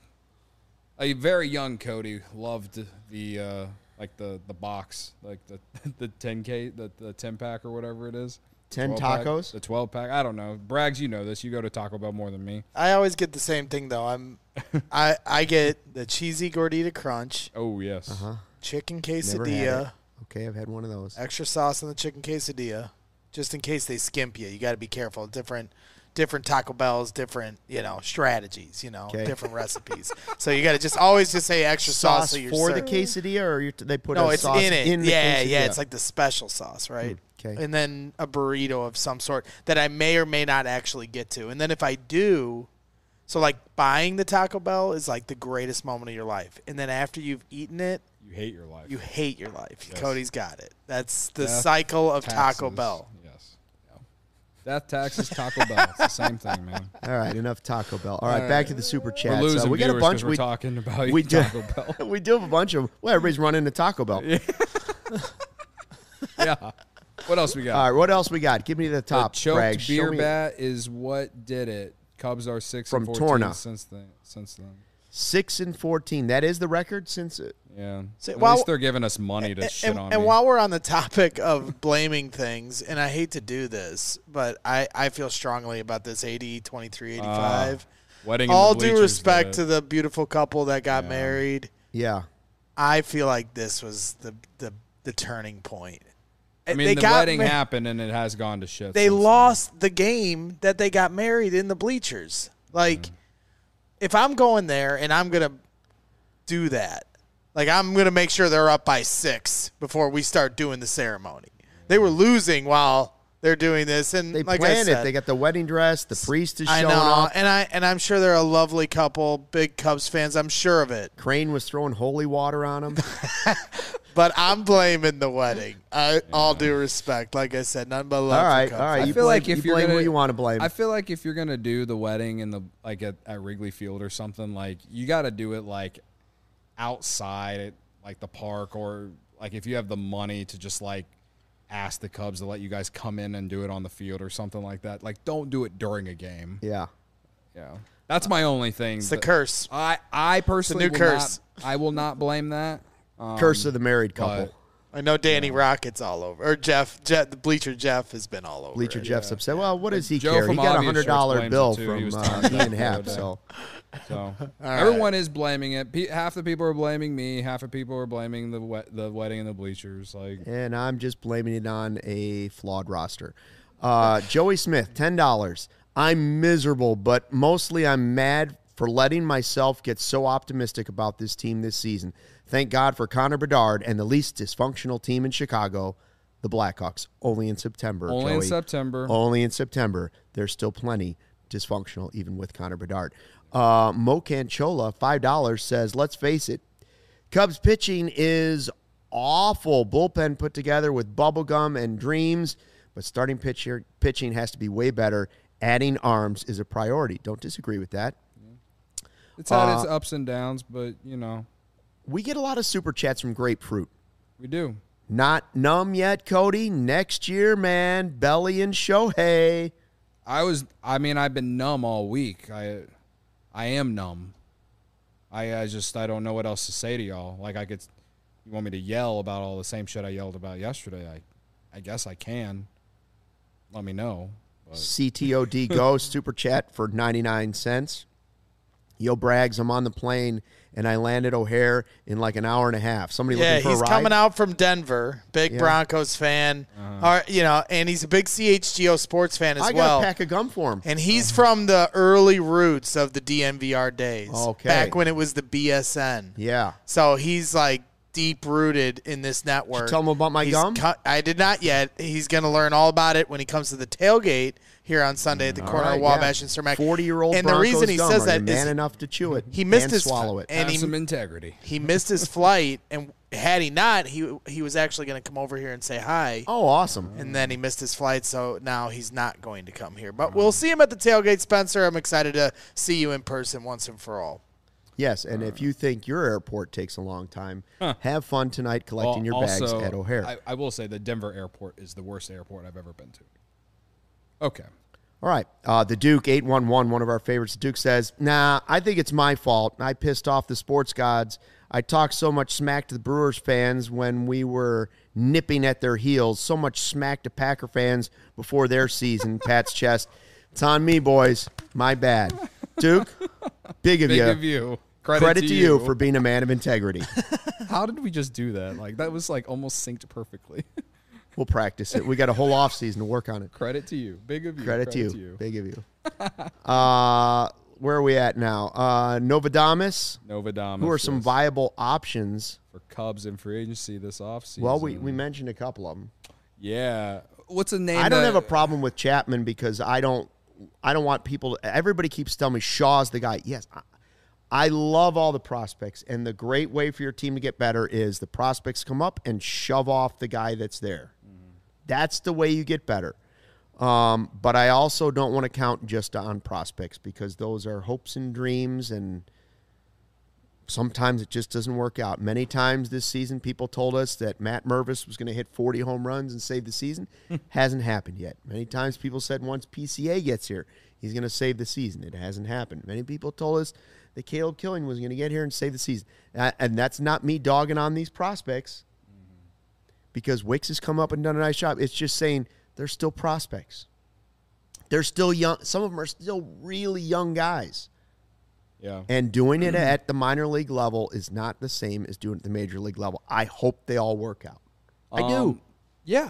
A very young Cody loved the, uh, like, the, the box, like the the ten K, the, the ten-pack or whatever it is. ten twelve-pack, tacos? The twelve-pack. I don't know. Braggs, you know this. You go to Taco Bell more than me. I always get the same thing though. I'm, I I get the cheesy gordita crunch, Oh, yes. Uh-huh. chicken Never had it. quesadilla, Okay, I've had one of those. extra sauce on the chicken quesadilla, just in case they skimp you. You got to be careful. Different, different Taco Bells, different you know strategies. You know, Okay. different recipes. So you got to just always just say extra sauce, Sauce so you're for the certain. quesadilla, or you're t- they put No, a it's sauce in it. in the yeah, quesadilla? yeah. It's like the special sauce, right? Hmm, okay. And then a burrito of some sort that I may or may not actually get to. And then if I do, so like buying the Taco Bell is like the greatest moment of your life. And then after you've eaten it, You hate your life. you hate your life. Yes. Cody's got it. That's the Death, cycle of Taco Taxes. Bell. Yes. Yeah. Death, taxes, Taco Bell. It's the same thing, man. All right, enough Taco Bell. All right, back to the super We're chat. losing So we got a viewers bunch. 'cause we're We talking about we do, Taco Bell. we do have a bunch of. Well, everybody's running to Taco Bell. Yeah. What else we got? All right, what else we got? Give me the The top. choked Bragg. Show beer me- bat is what did it. Cubs are six From and fourteen Torna. since then. Since then, Six and fourteen. That is the record since. It, yeah. So, At while- least they're giving us money to And, shit and, on and me. while we're on the topic of blaming things, and I hate to do this, but I, I feel strongly about this eighty, twenty-three, eighty-five. Wedding in All the due bleachers respect did to it. the beautiful couple that got Yeah. married. yeah. I feel like this was the the, the turning point. I mean, they the got wedding ma- happened and it has gone to shit. They since lost the game that they got married in the bleachers. Like, mm. if I'm going there and I'm going to do that, like I'm going to make sure they're up by six before we start doing the ceremony. They were losing while they're doing this, and they like planned I said, it. They got the wedding dress. The priest is I showing know, up. and I and I'm sure they're a lovely couple, big Cubs fans. I'm sure of it. Crane was throwing holy water on them. But I'm blaming the wedding. I, yeah. All due respect, like I said, none but love. All right, for all right. I you feel blame, like if you you're blame gonna, who you want to blame. I feel like if you're gonna do the wedding in the like at, at Wrigley Field or something, like you got to do it like outside at like the park, or like if you have the money to just like ask the Cubs to let you guys come in and do it on the field or something like that. Like, don't do it during a game. Yeah, yeah. That's my only thing. It's the curse. I I personally it's a new will curse. Not, I will not blame that. Um, curse of the married couple. I know Danny yeah. Rocket's all over. Or Jeff, Jeff, the Bleacher Jeff has been all over. Bleacher it. Jeff's yeah. upset. Well, what does he Joe care? He got a Obvious hundred dollar Shirts bill blames it, too. from uh, Ian Happ. So, so right. everyone is blaming it. Pe- half the people are blaming me. Half the people are blaming the we- the wedding and the bleachers. Like, and I'm just blaming it on a flawed roster. Uh, Joey Smith, ten dollars. I'm miserable, but mostly I'm mad for letting myself get so optimistic about this team this season. Thank God for Connor Bedard and the least dysfunctional team in Chicago, the Blackhawks. Only in September. Only Joey. in September. Only in September. There's still plenty dysfunctional, even with Connor Bedard. Uh, Mo Canchola, five dollars, says, let's face it, Cubs pitching is awful. Bullpen put together with bubblegum and dreams, but starting pitcher, pitching has to be way better. Adding arms is a priority. Don't disagree with that. It's had uh, its ups and downs, but, you know. We get a lot of super chats from Grapefruit. We do. Not numb yet, Cody. Next year, man. Belly and Shohei. I was, I mean, I've been numb all week. I I am numb. I, I just, I don't know what else to say to y'all. Like, I could, you want me to yell about all the same shit I yelled about yesterday? I, I guess I can. Let me know. But. C T O D Go, super chat for ninety-nine cents. Yo, Braggs, I'm on the plane, and I landed O'Hare in like an hour and a half. Somebody yeah, looking for a he's ride? coming out from Denver. Big Yeah. Broncos fan. Uh-huh. Or, you know, and he's a big C H G O sports fan as I got well. a pack of gum for him. And he's from the early roots of the D N V R days. Okay. Back when it was the B S N. Yeah. So he's like deep rooted in this network. Did you tell him about my He's gum? cu- I did not yet. He's going to learn all about it when he comes to the tailgate here on Sunday at the All corner right, of Wabash yeah. and Cermak. forty-year-old And the Broncos reason he gum. says Are that you man is enough to chew it he missed and his swallow it. and Have he, some integrity. he missed his flight, and had he not, he he was actually going to come over here and say hi. Oh, awesome. And then he missed his flight, so now he's not going to come here. But we'll see him at the tailgate, Spencer. I'm excited to see you in person once and for all. Yes, and if you think your airport takes a long time, Huh. have fun tonight collecting Well, your bags also, at O'Hare. I, I will say the Denver airport is the worst airport I've ever been to. Okay. All right. Uh, the Duke, eight one one, one of our favorites. The Duke says, nah, I think it's my fault. I pissed off the sports gods. I talked so much smack to the Brewers fans when we were nipping at their heels, so much smack to Packer fans before their season. Pat's chest. It's on me, boys. My bad. Duke, big of Big you. of you. Credit, Credit to, to you for being a man of integrity. How did we just do that? Like, that was like almost synced perfectly. We'll practice it. We got a whole off season to work on it. Credit to you. Big of you. Credit, to, you. to you. Big of you. uh, where are we at now? Uh, Novadamus. Novadamus. Who are some yes. viable options? For Cubs in free agency this offseason? Well, we, we mentioned a couple of them. Yeah. What's the name? I don't that, have a problem with Chapman because I don't I don't want people to, everybody keeps telling me Shaw's the guy. Yes, I, I love all the prospects, and the great way for your team to get better is the prospects come up and shove off the guy that's there. Mm-hmm. That's the way you get better. Um, but I also don't want to count just on prospects because those are hopes and dreams, and sometimes it just doesn't work out. Many times this season, people told us that Matt Mervis was going to hit forty home runs and save the season. Hasn't happened yet. Many times people said once P C A gets here, he's going to save the season. It hasn't happened. Many people told us that Caleb Killing was going to get here and save the season. And that's not me dogging on these prospects because Wicks has come up and done a nice job. It's just saying they're still prospects. They're still young. Some of them are still really young guys. Yeah. And doing it at the minor league level is not the same as doing it at the major league level. I hope they all work out. I Um, do. Yeah.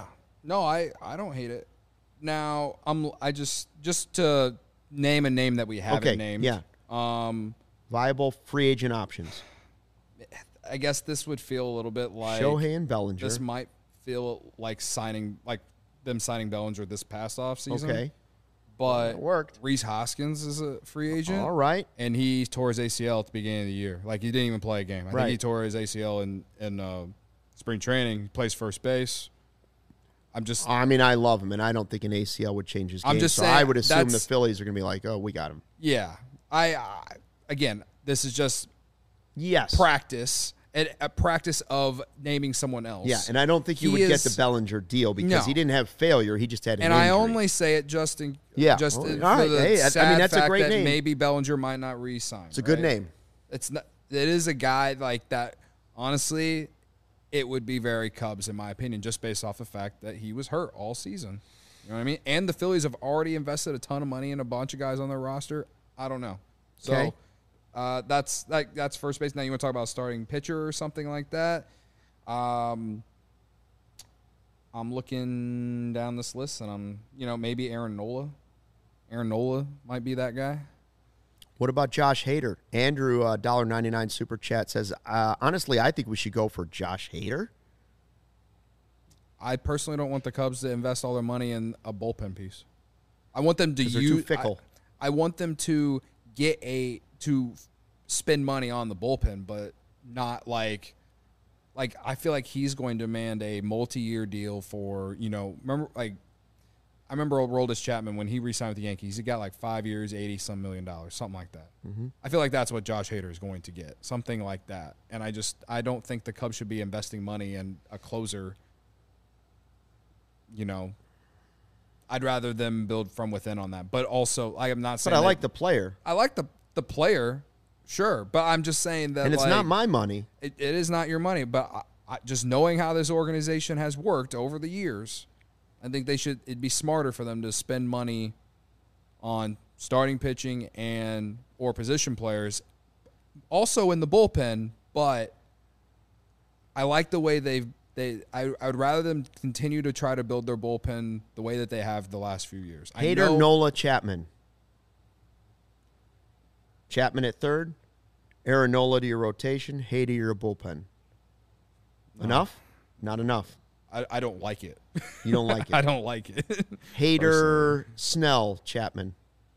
No, I, I don't hate it. Now, I'm I just just to name a name that we haven't Okay, named. yeah. Um, Viable free agent options. I guess this would feel a little bit like Shohei and Bellinger. This might feel like signing like them signing Bellinger this past offseason. Okay. But It worked. Reese Hoskins is a free agent. All right. And he tore his A C L at the beginning of the year. Like, he didn't even play a game. I Right. think he tore his A C L in, in uh, spring training. He plays first base. I'm just I mean, I love him, and I don't think an A C L would change his game. I'm just so saying I would assume the that's- Phillies are going to be like, oh, we got him. yeah. I, I again, this is just Yes. practice. A, a practice of naming someone else. Yeah, and I don't think you He would get is- the Bellinger deal because No. he didn't have failure. He just had an And I injury. only say it just in Yeah. just Well, in- all for right. the Hey, I- I mean, sad that's a fact great that name. maybe Bellinger might not re-sign. It's a good right? name. It's not. It is a guy like that. Honestly, it would be very Cubs in my opinion, just based off the fact that he was hurt all season. You know what I mean? And the Phillies have already invested a ton of money in a bunch of guys on their roster. I don't know. So Okay. uh, that's like that's first base. Now you want to talk about starting pitcher or something like that. Um, I'm looking down this list, and I'm you know maybe Aaron Nola. Aaron Nola might be that guy. What about Josh Hader? Andrew, uh, one dollar ninety-nine super chat says, uh, honestly, I think we should go for Josh Hader. I personally don't want the Cubs to invest all their money in a bullpen piece. I want them to 'Cause they're use. too fickle. I, I want them to get a to spend money on the bullpen, but not like like I feel like he's going to demand a multi-year deal for you know remember like I remember old Roldis Chapman when he re-signed with the Yankees. He got like five years, eighty some million dollars, something like that. Mm-hmm. I feel like that's what Josh Hader is going to get, something like that. And I just I don't think the Cubs should be investing money in a closer. You know, I'd rather them build from within on that. But also, I am not saying But I that- like the player. I like the the player, sure. But I'm just saying that And it's like, not my money. it, it is not your money. But I, I, just knowing how this organization has worked over the years, I think they should. It'd be smarter for them to spend money on starting pitching and or position players, also in the bullpen. But I like the way they've. They, I, I would rather them continue to try to build their bullpen the way that they have the last few years. I Hader, know- Nola, Chapman. Chapman at third. Aaron Nola to your rotation. Hader to your bullpen. Enough? Not enough. I, I don't like it. You don't like I it. don't like it. Hader, Snell, Chapman.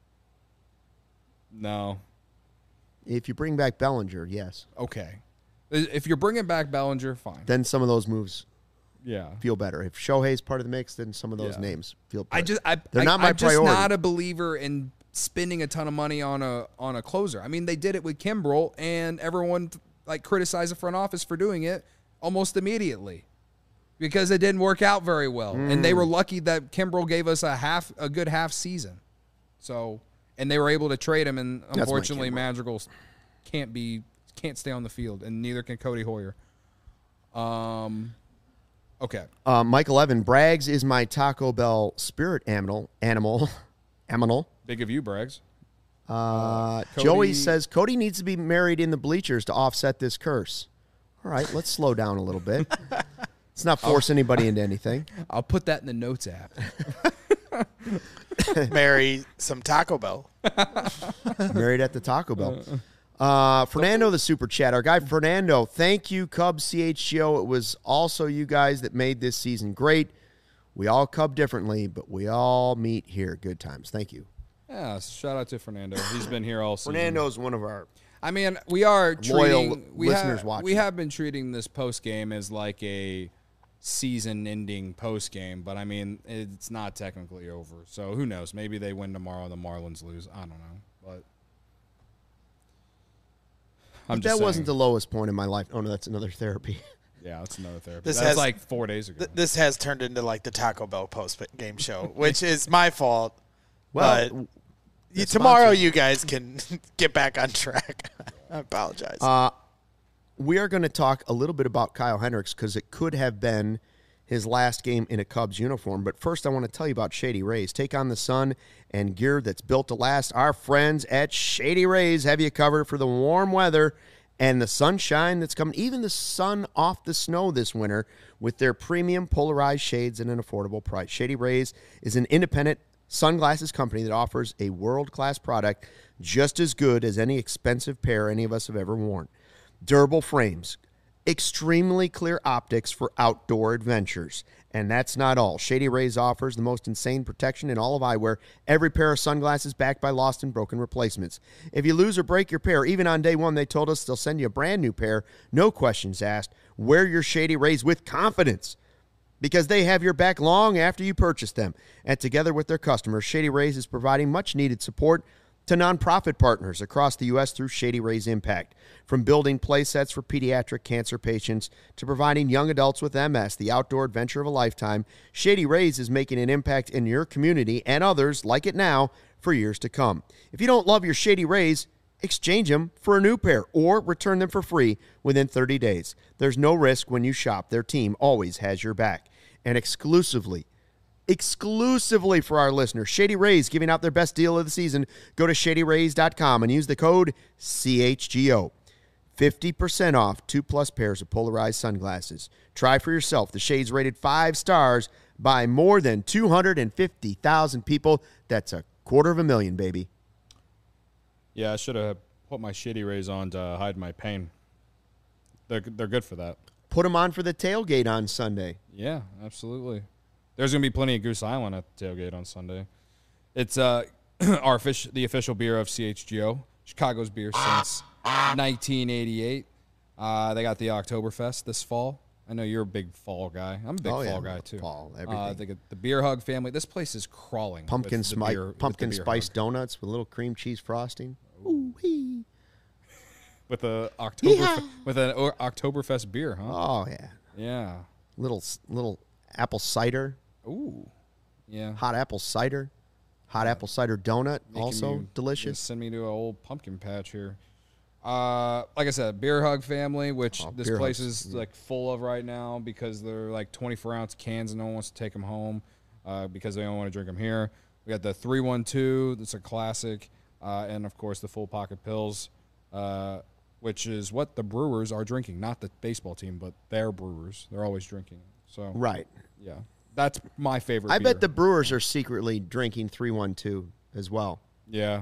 No. If you bring back Bellinger, yes. Okay. If you're bringing back Bellinger, fine. Then some of those moves Yeah. feel better. If Shohei's part of the mix, then some of those Yeah. names feel better. I just I They're I, not my I'm just priority. not a believer in spending a ton of money on a on a closer. I mean, they did it with Kimbrel, and everyone like criticized the front office for doing it almost immediately because it didn't work out very well, and they Mm. were lucky that Kimbrel gave us a half a good half season. So, and they were able to trade him, and my unfortunately, Kimbrel. Madrigal can't be can't stay on the field, and neither can Cody Hoyer. Um. Okay. Uh, Michael Evan, Braggs is my Taco Bell spirit animal. Animal. Animal. Big of you, Braggs. Uh, Cody- Joey says Cody needs to be married in the bleachers to offset this curse. All right, let's slow down a little bit. Let's not force anybody into anything. I'll put that in the notes app. Marry some Taco Bell. Married at the Taco Bell. Uh, Fernando, the super chat. Our guy Fernando, thank you, Cubs C H G O. It was also you guys that made this season great. We all Cub differently, but we all meet here. Good times. Thank you. Yeah, shout out to Fernando. He's been here all season. Fernando's one of our I mean, we are Loyal treating we listeners have, watching. We have been treating this post game as like a season-ending post game, but I mean, it's not technically over. So who knows? Maybe they win tomorrow and the Marlins lose. I don't know, but I'm But just that wasn't the saying. lowest point in my life. Oh, no, that's another therapy. Yeah, that's another therapy. This That's has- like four days ago. Th- this has turned into like the Taco Bell post game show, which is my fault. Well, But you, it's tomorrow sponsored. you guys can get back on track. I apologize. Uh, we are going to talk a little bit about Kyle Hendricks because it could have been his last game in a Cubs uniform. But first, I want to tell you about Shady Rays. Take on the sun and gear that's built to last. Our friends at Shady Rays have you covered for the warm weather and the sunshine that's coming, even the sun off the snow this winter with their premium polarized shades at an affordable price. Shady Rays is an independent sunglasses company that offers a world-class product just as good as any expensive pair any of us have ever worn. Durable frames, extremely clear optics for outdoor adventures. And that's not all. Shady Rays offers the most insane protection in all of eyewear. Every pair of sunglasses backed by lost and broken replacements. If you lose or break your pair, even on day one, they told us they'll send you a brand new pair. No questions asked. Wear your Shady Rays with confidence because they have your back long after you purchase them. And together with their customers, Shady Rays is providing much-needed support to nonprofit partners across the U S through Shady Rays Impact. From building play sets for pediatric cancer patients to providing young adults with M S the outdoor adventure of a lifetime, Shady Rays is making an impact in your community and others like it now for years to come. If you don't love your Shady Rays, exchange them for a new pair or return them for free within thirty days. There's no risk when you shop. Their team always has your back. And exclusively, Exclusively for our listeners, Shady Rays giving out their best deal of the season. Go to shady rays dot com and use the code C H G O. fifty percent off two plus pairs of polarized sunglasses. Try for yourself. The shades rated five stars by more than two hundred fifty thousand people. That's a quarter of a million, baby. Yeah, I should have put my Shady Rays on to hide my pain. They're, they're good for that. Put them on for the tailgate on Sunday. Yeah, absolutely. There's going to be plenty of Goose Island at the tailgate on Sunday. It's uh, our fish, the official beer of C H G O, Chicago's beer since nineteen eighty-eight. Uh, they got the Oktoberfest this fall. I know you're a big fall guy. I'm a big Oh, fall yeah, guy, too. fall, everything. Uh, they got the Beer Hug family. This place is crawling. Pumpkin, with the smi- beer, with pumpkin the beer spice hug. donuts with a little cream cheese frosting. Ooh-wee. With a October Yeah. with an o- Oktoberfest beer, huh? Oh, yeah. Yeah. Little little apple cider. Ooh. Yeah. Hot apple cider. Hot apple cider donut, Making also you- delicious. Send me to an old pumpkin patch here. Uh, like I said, Beer Hug family, which Oh, this Beer place Hugs, is like full of right now because they're like twenty-four ounce cans and no one wants to take them home uh, because they don't want to drink them here. We got the three one two, that's a classic, uh, and of course the full pocket pills, uh, which is what the Brewers are drinking, not the baseball team, but their Brewers. They're always drinking. So Right. yeah, that's my favorite. I beer. bet the Brewers are secretly drinking three one two as well. Yeah.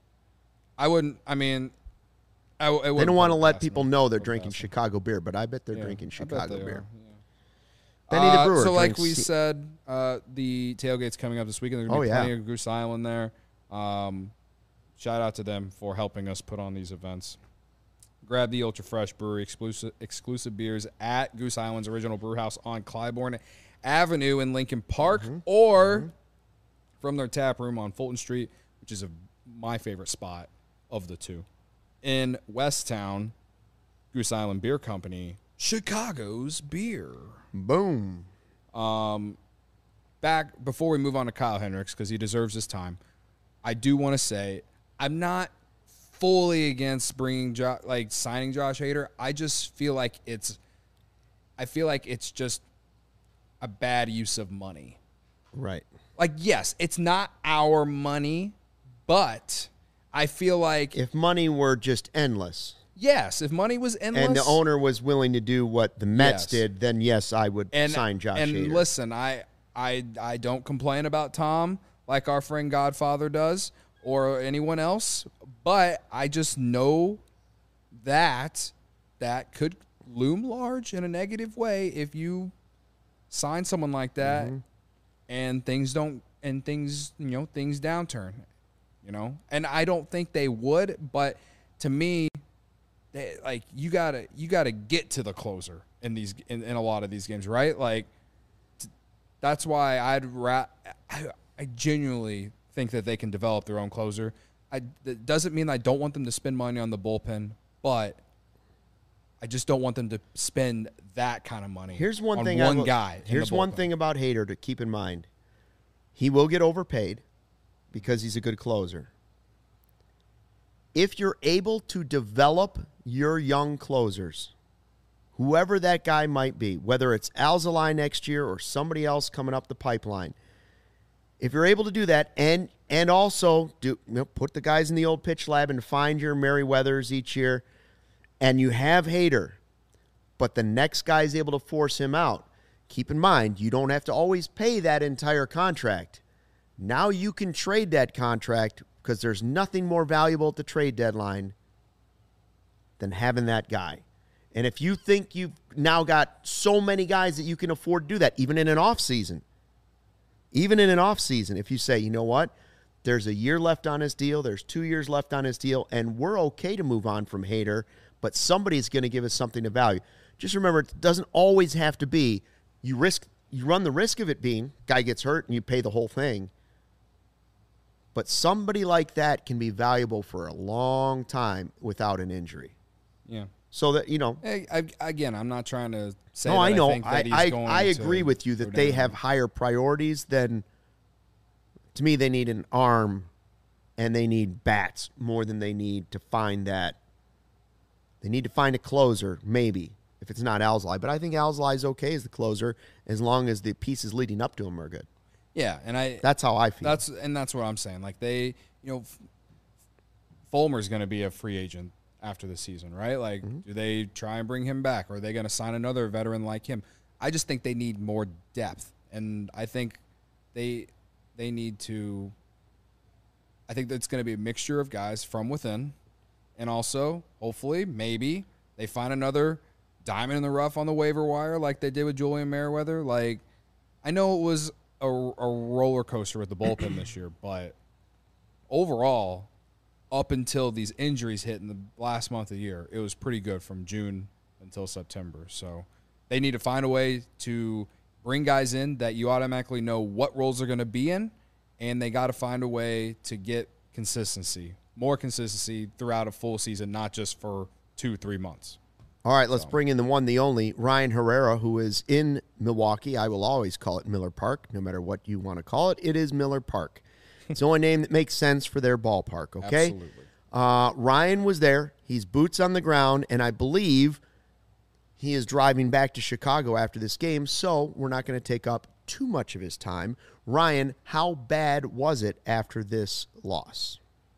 I wouldn't, I mean, I, w- it They wouldn't don't want to put it let past people me. know they're Put it drinking past me. Chicago beer, but I bet they're Yeah, drinking I bet Chicago they beer. are, yeah. Benny the Uh, Brewer. So, like drinks we C- said, uh, the tailgate's coming up this weekend. There's going to Oh, be yeah. plenty of Goose Island there. Um, shout out to them for helping us put on these events. Grab the Ultra Fresh Brewery exclusive exclusive beers at Goose Island's original brew house on Clybourne Avenue in Lincoln Park, Mm-hmm. or from their tap room on Fulton Street, which is a, my favorite spot of the two. In Westtown, Goose Island Beer Company, Chicago's beer. Boom. Um, back before we move on to Kyle Hendricks, because he deserves his time, I do want to say I'm not fully against bringing jo- like signing Josh Hader. I just feel like it's, I feel like it's just a bad use of money. Right. Like, yes, it's not our money, but I feel like If money were just endless yes, if money was endless, and the owner was willing to do what the Mets Yes. did, then yes, I would and sign Josh and Hader. listen, I I I don't complain about Tom like our friend Godfather does or anyone else, but I just know that that could loom large in a negative way if you sign someone like that Mm-hmm. and things don't and things you know things downturn, you know. And I don't think they would, but to me, they, like you gotta you gotta get to the closer in these in, in a lot of these games, right? Like t- that's why I'd ra- I, I genuinely think that they can develop their own closer. I that doesn't mean I don't want them to spend money on the bullpen, but I just don't want them to spend that kind of money. Here's one on thing. I one will- guy. in Here's the one bullpen. thing about Hader to keep in mind. He will get overpaid because he's a good closer. If you're able to develop your young closers, whoever that guy might be, whether it's Alzolay next year or somebody else coming up the pipeline, if you're able to do that and and also do you know, put the guys in the old pitch lab and find your Merriweathers each year and you have Hader, but the next guy is able to force him out, keep in mind, you don't have to always pay that entire contract. Now you can trade that contract because there's nothing more valuable at the trade deadline than having that guy. And if you think you've now got so many guys that you can afford to do that, even in an off season, even in an off season, if you say, you know what, there's a year left on his deal, there's two years left on his deal, and we're okay to move on from Hader, but somebody's going to give us something to value. Just remember, it doesn't always have to be you risk, you run the risk of it being guy gets hurt and you pay the whole thing. But somebody like that can be valuable for a long time without an injury. Yeah. So that, you know. Hey, I, again, I'm not trying to say no, that I know. I think that I, he's I, going I to agree with you that go they down. have higher priorities than, to me, they need an arm and they need bats more than they need to find that. They need to find a closer, maybe, if it's not Alzolay. But I think Alzolay is okay as the closer as long as the pieces leading up to him are good. Yeah, and I That's how I feel. That's and that's what I'm saying. Like they, you know, Fulmer's going to be a free agent after the season, right? Like, mm-hmm. do they try and bring him back, or are they going to sign another veteran like him? I just think they need more depth, and I think they they need to. I think that's going to be a mixture of guys from within, and also hopefully maybe they find another diamond in the rough on the waiver wire, like they did with Julian Merriweather. Like, I know it was a, a roller coaster with the bullpen this year, but overall, up until these injuries hit in the last month of the year, it was pretty good from June until September. So they need to find a way to bring guys in that you automatically know what roles they're going to be in, and they got to find a way to get consistency, more consistency throughout a full season, not just for two, three months. All right, let's So. bring in the one, the only, Ryan Herrera, who is in Milwaukee. I will always call it Miller Park, no matter what you want to call it. It is Miller Park. It's the only name that makes sense for their ballpark, okay? Absolutely. Uh, Ryan was there. He's boots on the ground, and I believe he is driving back to Chicago after this game, so we're not going to take up too much of his time. Ryan, how bad was it after this loss?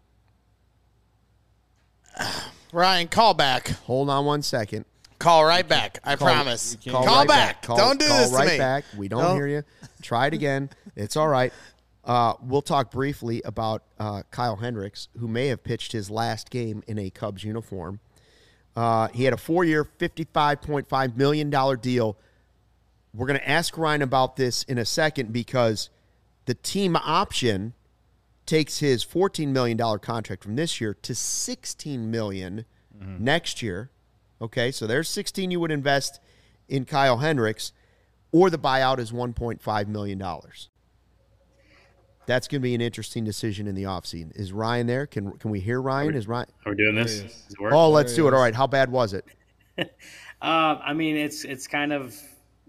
Ryan, call back. Hold on one second. Call right back. I Call- promise. Call, Call right back. Call, Don't do call this to right me. back. We don't No. hear you. Try it again. It's all right. Uh, we'll talk briefly about uh, Kyle Hendricks, who may have pitched his last game in a Cubs uniform. Uh, he had a four-year, fifty-five point five million dollars deal. We're going to ask Ryan about this in a second because the team option takes his fourteen million dollars contract from this year to sixteen million dollars mm-hmm. next year. Okay, so there's sixteen you would invest in Kyle Hendricks, or the buyout is one point five million dollars. That's going to be an interesting decision in the offseason. Is Ryan there? Can can we hear Ryan? Are we, is Ryan? Are we doing this? Does it work? Oh, let's do it. All right. How bad was it? uh, I mean, it's it's kind of,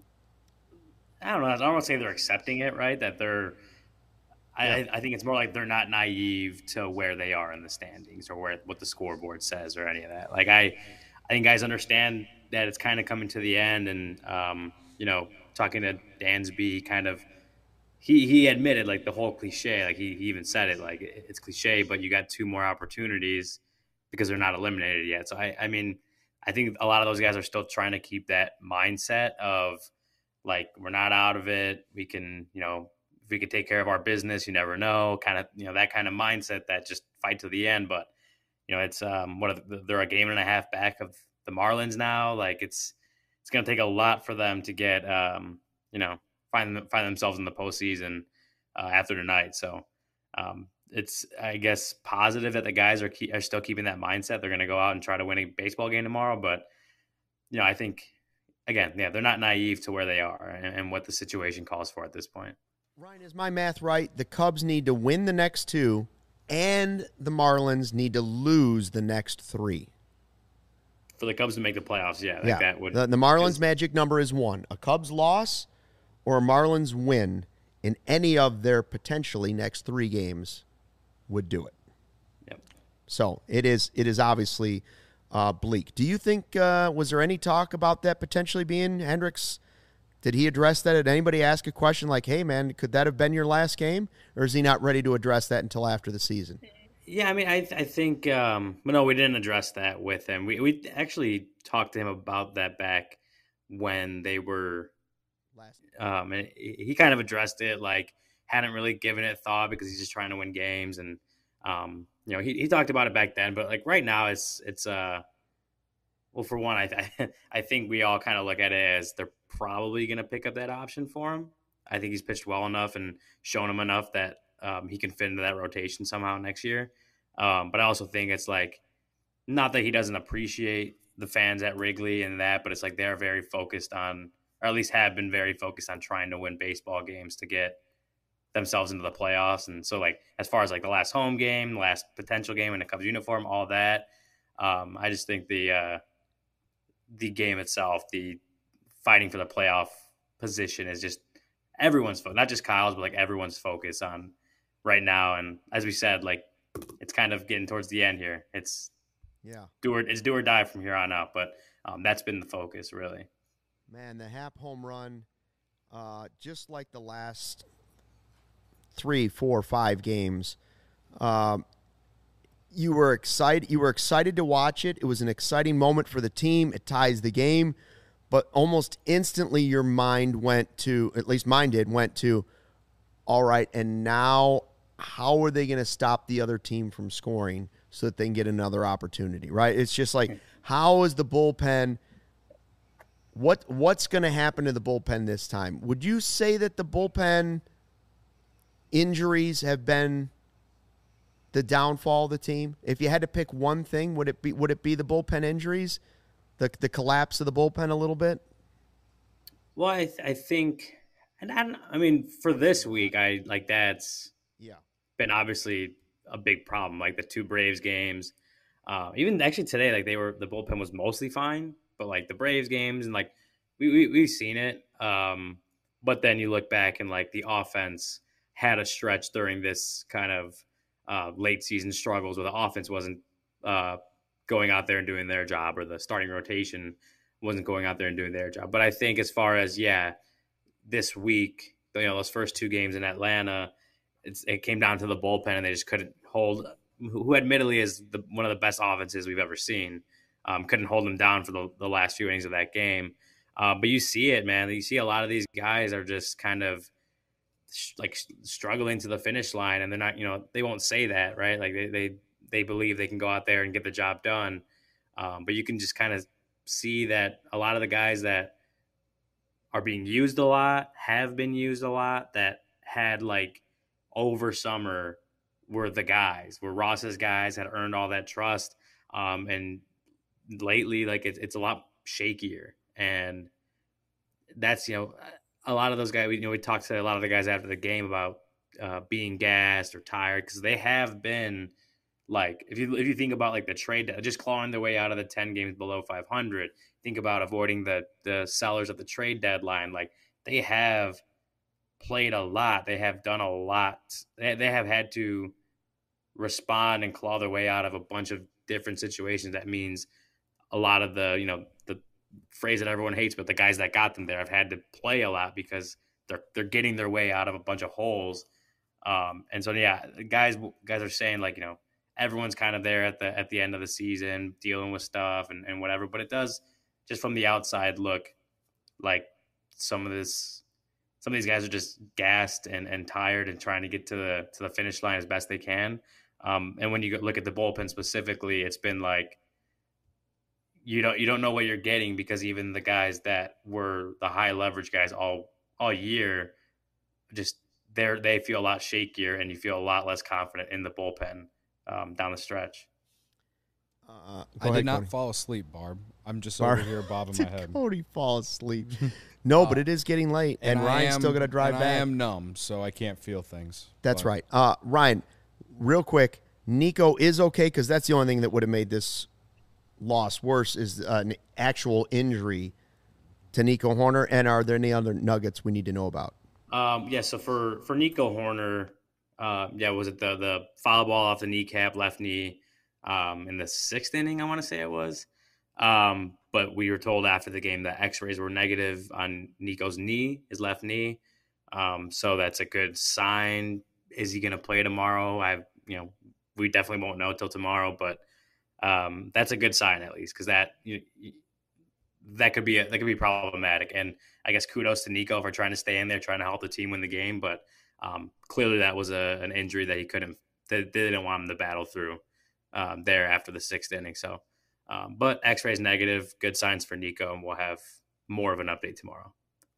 I don't know. I don't want to say they're accepting it, right? That they're, I, Yeah. I think it's more like they're not naive to where they are in the standings or where what the scoreboard says or any of that. Like I, I think guys understand that it's kind of coming to the end, and um, you know, talking to Dansby, kind of. He he admitted, like, the whole cliche, like he, he even said it, like it's cliche, but you got two more opportunities because they're not eliminated yet. So, I, I mean, I think a lot of those guys are still trying to keep that mindset of, like, we're not out of it. We can, you know, if we could take care of our business, you never know, kind of, you know, that kind of mindset that just fight to the end. But, you know, it's, um, what, are, they're a game and a half back of the Marlins now. Like, it's, it's going to take a lot for them to get, um, you know, find find themselves in the postseason uh, after tonight. So um, it's, I guess, positive that the guys are keep, are still keeping that mindset. They're going to go out and try to win a baseball game tomorrow. But, you know, I think, again, yeah, they're not naive to where they are and, and what the situation calls for at this point. Ryan, is my math right? The Cubs need to win the next two, and the Marlins need to lose the next three. For the Cubs to make the playoffs, yeah. Like yeah. that would, the, the Marlins' magic number is one. A Cubs loss or a Marlins win in any of their potentially next three games would do it. Yep. So it is it is obviously uh, bleak. Do you think, uh, was there any talk about that potentially being Hendricks? Did he address that? Did anybody ask a question like, hey, man, could that have been your last game? Or is he not ready to address that until after the season? Yeah, I mean, I I think um, well, no, we didn't address that with him. We we actually talked to him about that back when they were, Last um, and he he kind of addressed it, like hadn't really given it thought because he's just trying to win games, and um, you know, he he talked about it back then, but like right now, it's it's uh, well, for one, I I, I think we all kind of look at it as they're probably going to pick up that option for him. I think he's pitched well enough and shown him enough that um, he can fit into that rotation somehow next year. Um, but I also think it's like not that he doesn't appreciate the fans at Wrigley and that, but it's like they're very focused on, or at least have been very focused on trying to win baseball games to get themselves into the playoffs. And so, like as far as like the last home game, last potential game in a Cubs uniform, all that, um, I just think the uh, the game itself, the fighting for the playoff position, is just everyone's focus, not just Kyle's, but like everyone's focus on right now. And as we said, like it's kind of getting towards the end here. It's Yeah. do or it's do or die from here on out. But um, that's been the focus, really. Man, the Happ home run, uh, just like the last three, four, five games, um, you were excited. You were excited to watch it. It was an exciting moment for the team. It ties the game, but almost instantly your mind went to, at least mine did, went to, all right, and now how are they going to stop the other team from scoring so that they can get another opportunity, right? It's just like, how is the bullpen – What what's going to happen to the bullpen this time? Would you say that the bullpen injuries have been the downfall of the team? If you had to pick one thing, would it be would it be the bullpen injuries, the the collapse of the bullpen a little bit? Well, I th- I think, and I, don't, I mean, for this week, I like that's Yeah. been obviously a big problem. Like the two Braves games, uh, even actually today, like they were the bullpen was mostly fine. But like the Braves games and like we, we we've seen it. Um, but then you look back and like the offense had a stretch during this kind of uh, late season struggles where the offense wasn't uh, going out there and doing their job, or the starting rotation wasn't going out there and doing their job. But I think as far as yeah, this week, you know, those first two games in Atlanta, it's, it came down to the bullpen and they just couldn't hold. Who admittedly is the, one of the best offenses we've ever seen. Um, couldn't hold them down for the, the last few innings of that game. Uh, but you see it, man. You see a lot of these guys are just kind of sh- like struggling to the finish line, and they're not, you know, they won't say that, right? Like they they, they believe they can go out there and get the job done. Um, but you can just kind of see that a lot of the guys that are being used a lot, have been used a lot, that had like over summer were the guys, were Ross's guys, had earned all that trust. Um, and lately, like it's it's a lot shakier, and that's, you know, a lot of those guys. We you know we talked to a lot of the guys after the game about uh, being gassed or tired, because they have been like, if you if you think about like the trade, just clawing their way out of the ten games below five hundred. Think about avoiding the the sellers at the trade deadline. Like they have played a lot. They have done a lot. They they have had to respond and claw their way out of a bunch of different situations. That means a lot of the, you know, the phrase that everyone hates, but the guys that got them there have had to play a lot because they're they're getting their way out of a bunch of holes. Um, and so yeah, guys guys are saying like, you know, everyone's kind of there at the at the end of the season dealing with stuff and, and whatever. But it does, just from the outside, look like some of this some of these guys are just gassed and, and tired and trying to get to the to the finish line as best they can. Um, and when you look at the bullpen specifically, it's been like, you don't you don't know what you're getting, because even the guys that were the high leverage guys all all year, just they're they feel a lot shakier, and you feel a lot less confident in the bullpen um, down the stretch. Uh, I go did not Cody. fall asleep, Barb. I'm just Barb- over here bobbing Did my head. Cody fall asleep? No, but it is getting late, and, I Ryan's am- still going to drive and back. I am numb, so I can't feel things. That's But right. Uh, Ryan, real quick, Nico is okay, because that's the only thing that would have made this loss worse is uh, an actual injury to Nico Horner. And are there any other nuggets we need to know about? Um, yeah, so for for Nico Horner, uh, yeah, was it the the foul ball off the kneecap, left knee, um, in the sixth inning? I want to say it was. Um, but we were told after the game that X-rays were negative on Nico's knee, his left knee. Um, so that's a good sign. Is he going to play tomorrow? I, you know, we definitely won't know till tomorrow, but um, that's a good sign at least, because that you, that could be a, that could be problematic. And I guess kudos to Nico for trying to stay in there, trying to help the team win the game. But um, clearly that was a, an injury that he couldn't, that they didn't want him to battle through um, there after the sixth inning. So, um, but X-rays negative, good signs for Nico, and we'll have more of an update tomorrow.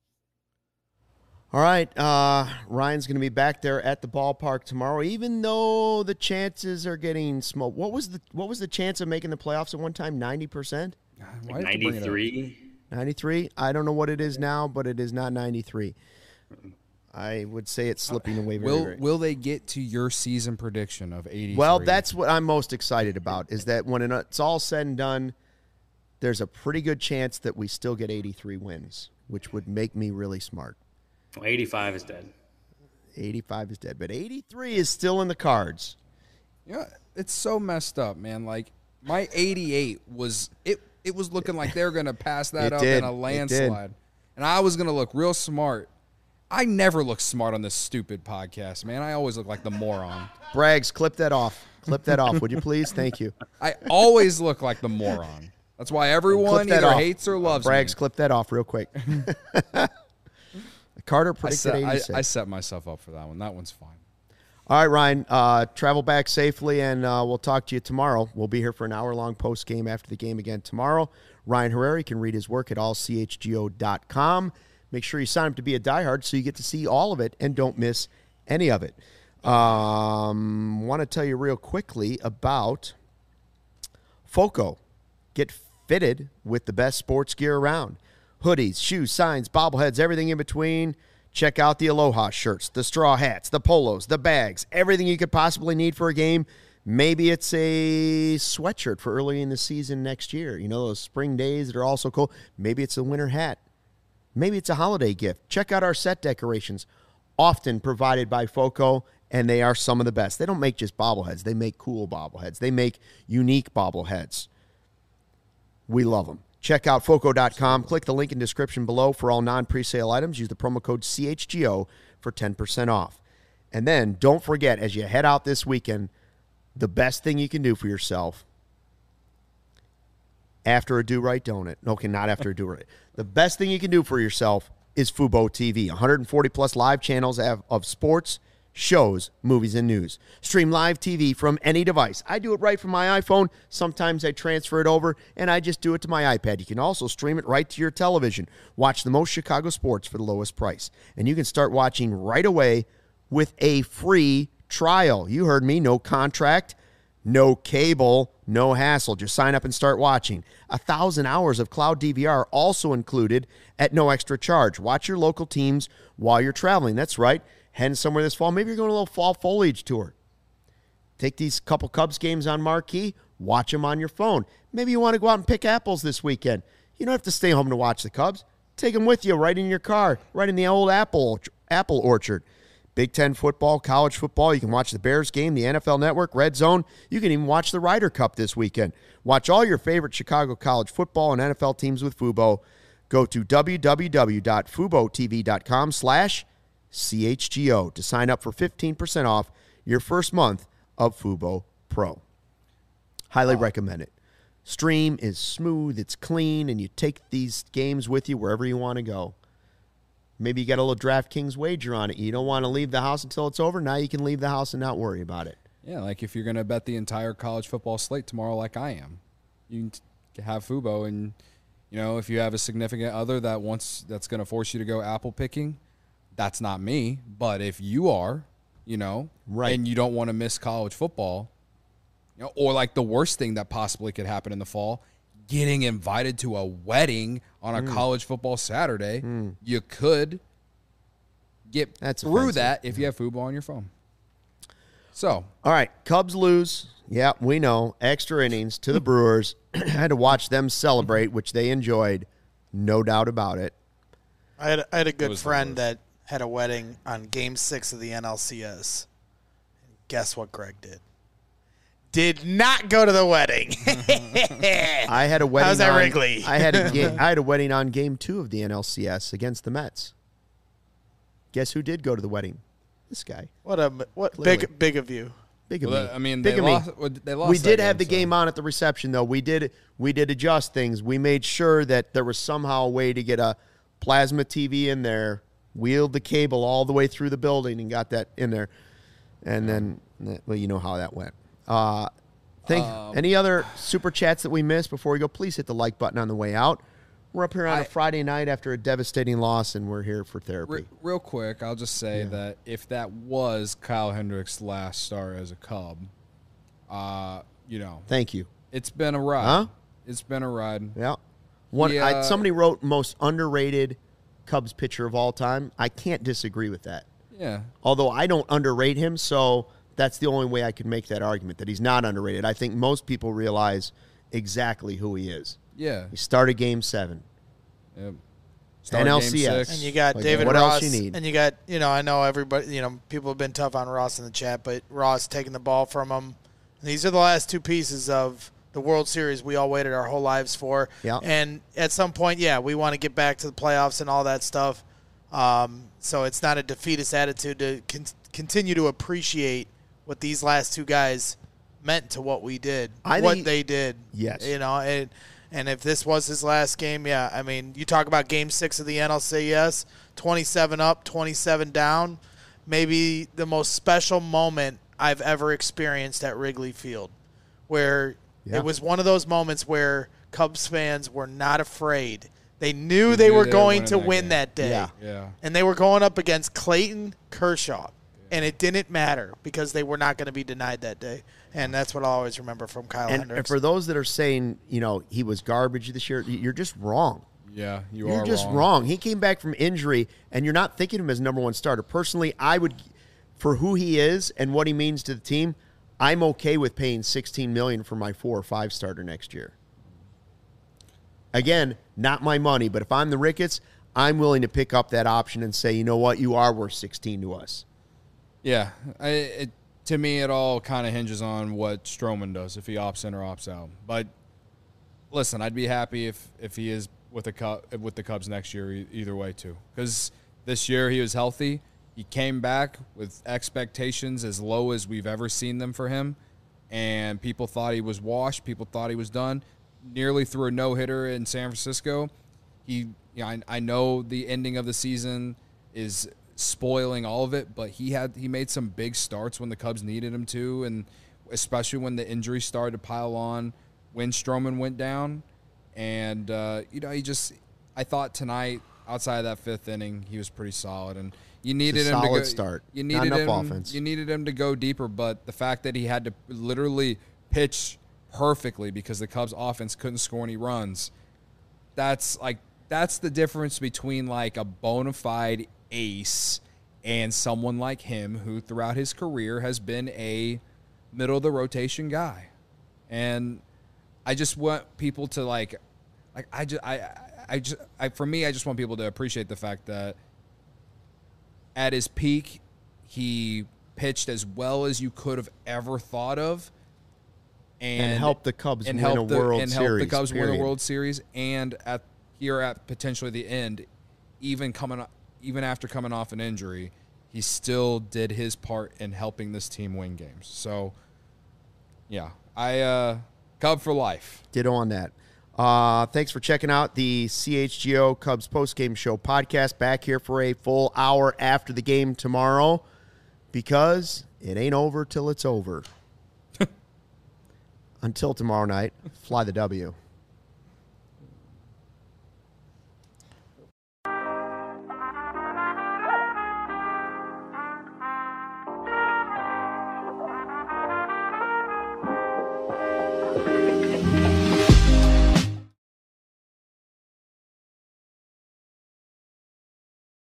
All right, uh, Ryan's going to be back there at the ballpark tomorrow, even though the chances are getting smoked. What was the what was the chance of making the playoffs at one time? ninety percent? Like ninety-three? ninety-three? I don't know what it is now, but it is not ninety-three. I would say it's slipping away very, Will very. Will they get to your season prediction of eighty-three? Well, that's what I'm most excited about, is that when it's all said and done, there's a pretty good chance that we still get eighty-three wins, which would make me really smart. Well, eighty-five is dead. eighty-five is dead, but eighty-three is still in the cards. Yeah, it's so messed up, man. Like, my eighty-eight was it. It was looking like they were going to pass that It up did. in a It did. landslide, and I was going to look real smart. I never look smart on this stupid podcast, man. I always look like the moron. Braggs, clip that off. Clip that off, would you please? Thank you. I always look like the moron. That's why everyone Clip that either off. hates or loves Braggs, me. clip that off real quick. Carter I predicted set, I, eighty-six. I set myself up for that one. That one's fine. All right, Ryan, uh, travel back safely, and uh, we'll talk to you tomorrow. We'll be here for an hour-long post-game after the game again tomorrow. Ryan Herrera, you can read his work at all c h g o dot com. Make sure you sign up to be a diehard so you get to see all of it and don't miss any of it. Um, want to tell you real quickly about FOCO. Get fitted with the best sports gear around. Hoodies, shoes, signs, bobbleheads, everything in between. Check out the Aloha shirts, the straw hats, the polos, the bags, everything you could possibly need for a game. Maybe it's a sweatshirt for early in the season next year. You know, those spring days that are also cool. Maybe it's a winter hat. Maybe it's a holiday gift. Check out our set decorations, often provided by FOCO, and they are some of the best. They don't make just bobbleheads. They make cool bobbleheads. They make unique bobbleheads. We love them. Check out foco dot com. Click the link in description below for all non-presale items. Use the promo code C H G O for ten percent off. And then don't forget, as you head out this weekend, the best thing you can do for yourself after a do-right donut. Okay, not after a do-right. The best thing you can do for yourself is Fubo T V. one hundred forty plus live channels of, of sports, shows, movies, and news. Stream live T V from any device. I do it right from my iPhone. Sometimes I transfer it over, and I just do it to my iPad. You can also stream it right to your television. Watch the most Chicago sports for the lowest price. And you can start watching right away with a free trial. You heard me. No contract, no cable, no hassle. Just sign up and start watching. A thousand hours of cloud D V R also included at no extra charge. Watch your local teams while you're traveling. That's right. Heading somewhere this fall. Maybe you're going on a little fall foliage tour. Take these couple Cubs games on marquee. Watch them on your phone. Maybe you want to go out and pick apples this weekend. You don't have to stay home to watch the Cubs. Take them with you right in your car, right in the old apple apple orchard. Big Ten football, college football. You can watch the Bears game, the N F L Network, Red Zone. You can even watch the Ryder Cup this weekend. Watch all your favorite Chicago college football and N F L teams with Fubo. Go to w w w dot fubo t v dot com slash C H G O to sign up for fifteen percent off your first month of Fubo Pro. Highly wow. recommend it. Stream is smooth, it's clean, and you take these games with you wherever you want to go. Maybe you got a little DraftKings wager on it. You don't want to leave the house until it's over. Now you can leave the house and not worry about it. Yeah, like if you're going to bet the entire college football slate tomorrow like I am, you can have Fubo, and you know, if you have a significant other that wants that's going to force you to go apple picking, that's not me. But if you are, you know, right, and you don't want to miss college football, you know, or like the worst thing that possibly could happen in the fall, getting invited to a wedding on a mm. college football Saturday, mm. you could get That's through offensive. that if you have Fubo on your phone. So, all right, Cubs lose. Yeah, we know. Extra innings to the Brewers. Had to watch them celebrate, which they enjoyed, no doubt about it. I had I had a good friend that had a wedding on Game Six of the N L C S. Guess what Greg did? Did not go to the wedding. I had a wedding. How's that on, Wrigley? I had a game, I had a wedding on Game Two of the N L C S against the Mets. Guess who did go to the wedding? This guy. What a what Clearly. big big of you. Big of Well, me. that- I mean, Big they of me. lost, well, they lost We that did have game, the so- game on at the reception, though. We did we did adjust things. We made sure that there was somehow a way to get a plasma T V in there, wheeled the cable all the way through the building and got that in there. And then, well, you know how that went. Uh, think Um, any other super chats that we missed before we go? Please hit the like button on the way out. We're up here on a I- Friday night after a devastating loss, and we're here for Re- therapy. real quick, I'll just say that if that was Kyle Hendricks' last start as a Cub, uh, you know, Thank you. it's been a ride. Huh? It's been a ride. Yeah. One. I, Yeah. somebody wrote most underrated Cubs pitcher of all time. I can't disagree with that. Yeah. Although I don't underrate him, so that's the only way I can make that argument that he's not underrated. I think most people realize exactly who he is. Yeah. He started Game Seven. Yep. N L C S. Game six. And you got Like, David what else Ross, you need? and you got, you know, I know everybody, you know, people have been tough on Ross in the chat, but Ross taking the ball from him. These are the last two pieces of the World Series we all waited our whole lives for. Yeah. And at some point, yeah, we want to get back to the playoffs and all that stuff. Um, so it's not a defeatist attitude to con- continue to appreciate what these last two guys meant to what we did, I what think- they did. Yes. You know, and, and if this was his last game, yeah, I mean, you talk about game six of the N L C S, twenty-seven up, twenty-seven down, maybe the most special moment I've ever experienced at Wrigley Field, where Yeah. it was one of those moments where Cubs fans were not afraid. They knew They they knew were they were going winning to that win game. that day. Yeah. Yeah. And they were going up against Clayton Kershaw. And it didn't matter because they were not going to be denied that day. And that's what I'll always remember from Kyle And, Hendricks. and for those that are saying, you know, he was garbage this year, you're just wrong. Yeah. You You're are just wrong. wrong. He came back from injury, and you're not thinking of him as number one starter. Personally, I would, for who he is and what he means to the team, I'm okay with paying sixteen million dollars for my four or five starter next year. Again, not my money, but if I'm the Ricketts, I'm willing to pick up that option and say, you know what, you are worth sixteen to us. Yeah. I, it, to me, it all kind of hinges on what Stroman does, if he opts in or opts out. But listen, I'd be happy if, if he is with the Cub, with the Cubs next year, e- either way too. Because this year he was healthy. He came back with expectations as low as we've ever seen them for him, and people thought he was washed. People thought he was done. Nearly threw a no hitter in San Francisco. He, you know, I, I know the ending of the season is spoiling all of it, but he had he made some big starts when the Cubs needed him to, and especially when the injuries started to pile on when Stroman went down. And uh, you know, he just I thought tonight, outside of that fifth inning, he was pretty solid, and you needed him to solid go, start. You Not needed enough him. offense. You needed him to go deeper, but the fact that he had to literally pitch perfectly because the Cubs offense couldn't score any runs, that's like that's the difference between like a bona fide ace and someone like him who throughout his career has been a middle of the rotation guy. And I just want people to like like I just I I just I for me I just want people to appreciate the fact that at his peak he pitched as well as you could have ever thought of. And, And help the Cubs and win help a the, World and help Series, the Cubs win period. a World Series, and at here at potentially the end, even coming even after coming off an injury, he still did his part in helping this team win games. So, yeah, I uh, Cub for life. Ditto on that. Uh, thanks for checking out the C H G O Cubs postgame show podcast. Back here for a full hour after the game tomorrow, because it ain't over till it's over. Until tomorrow night, fly the W.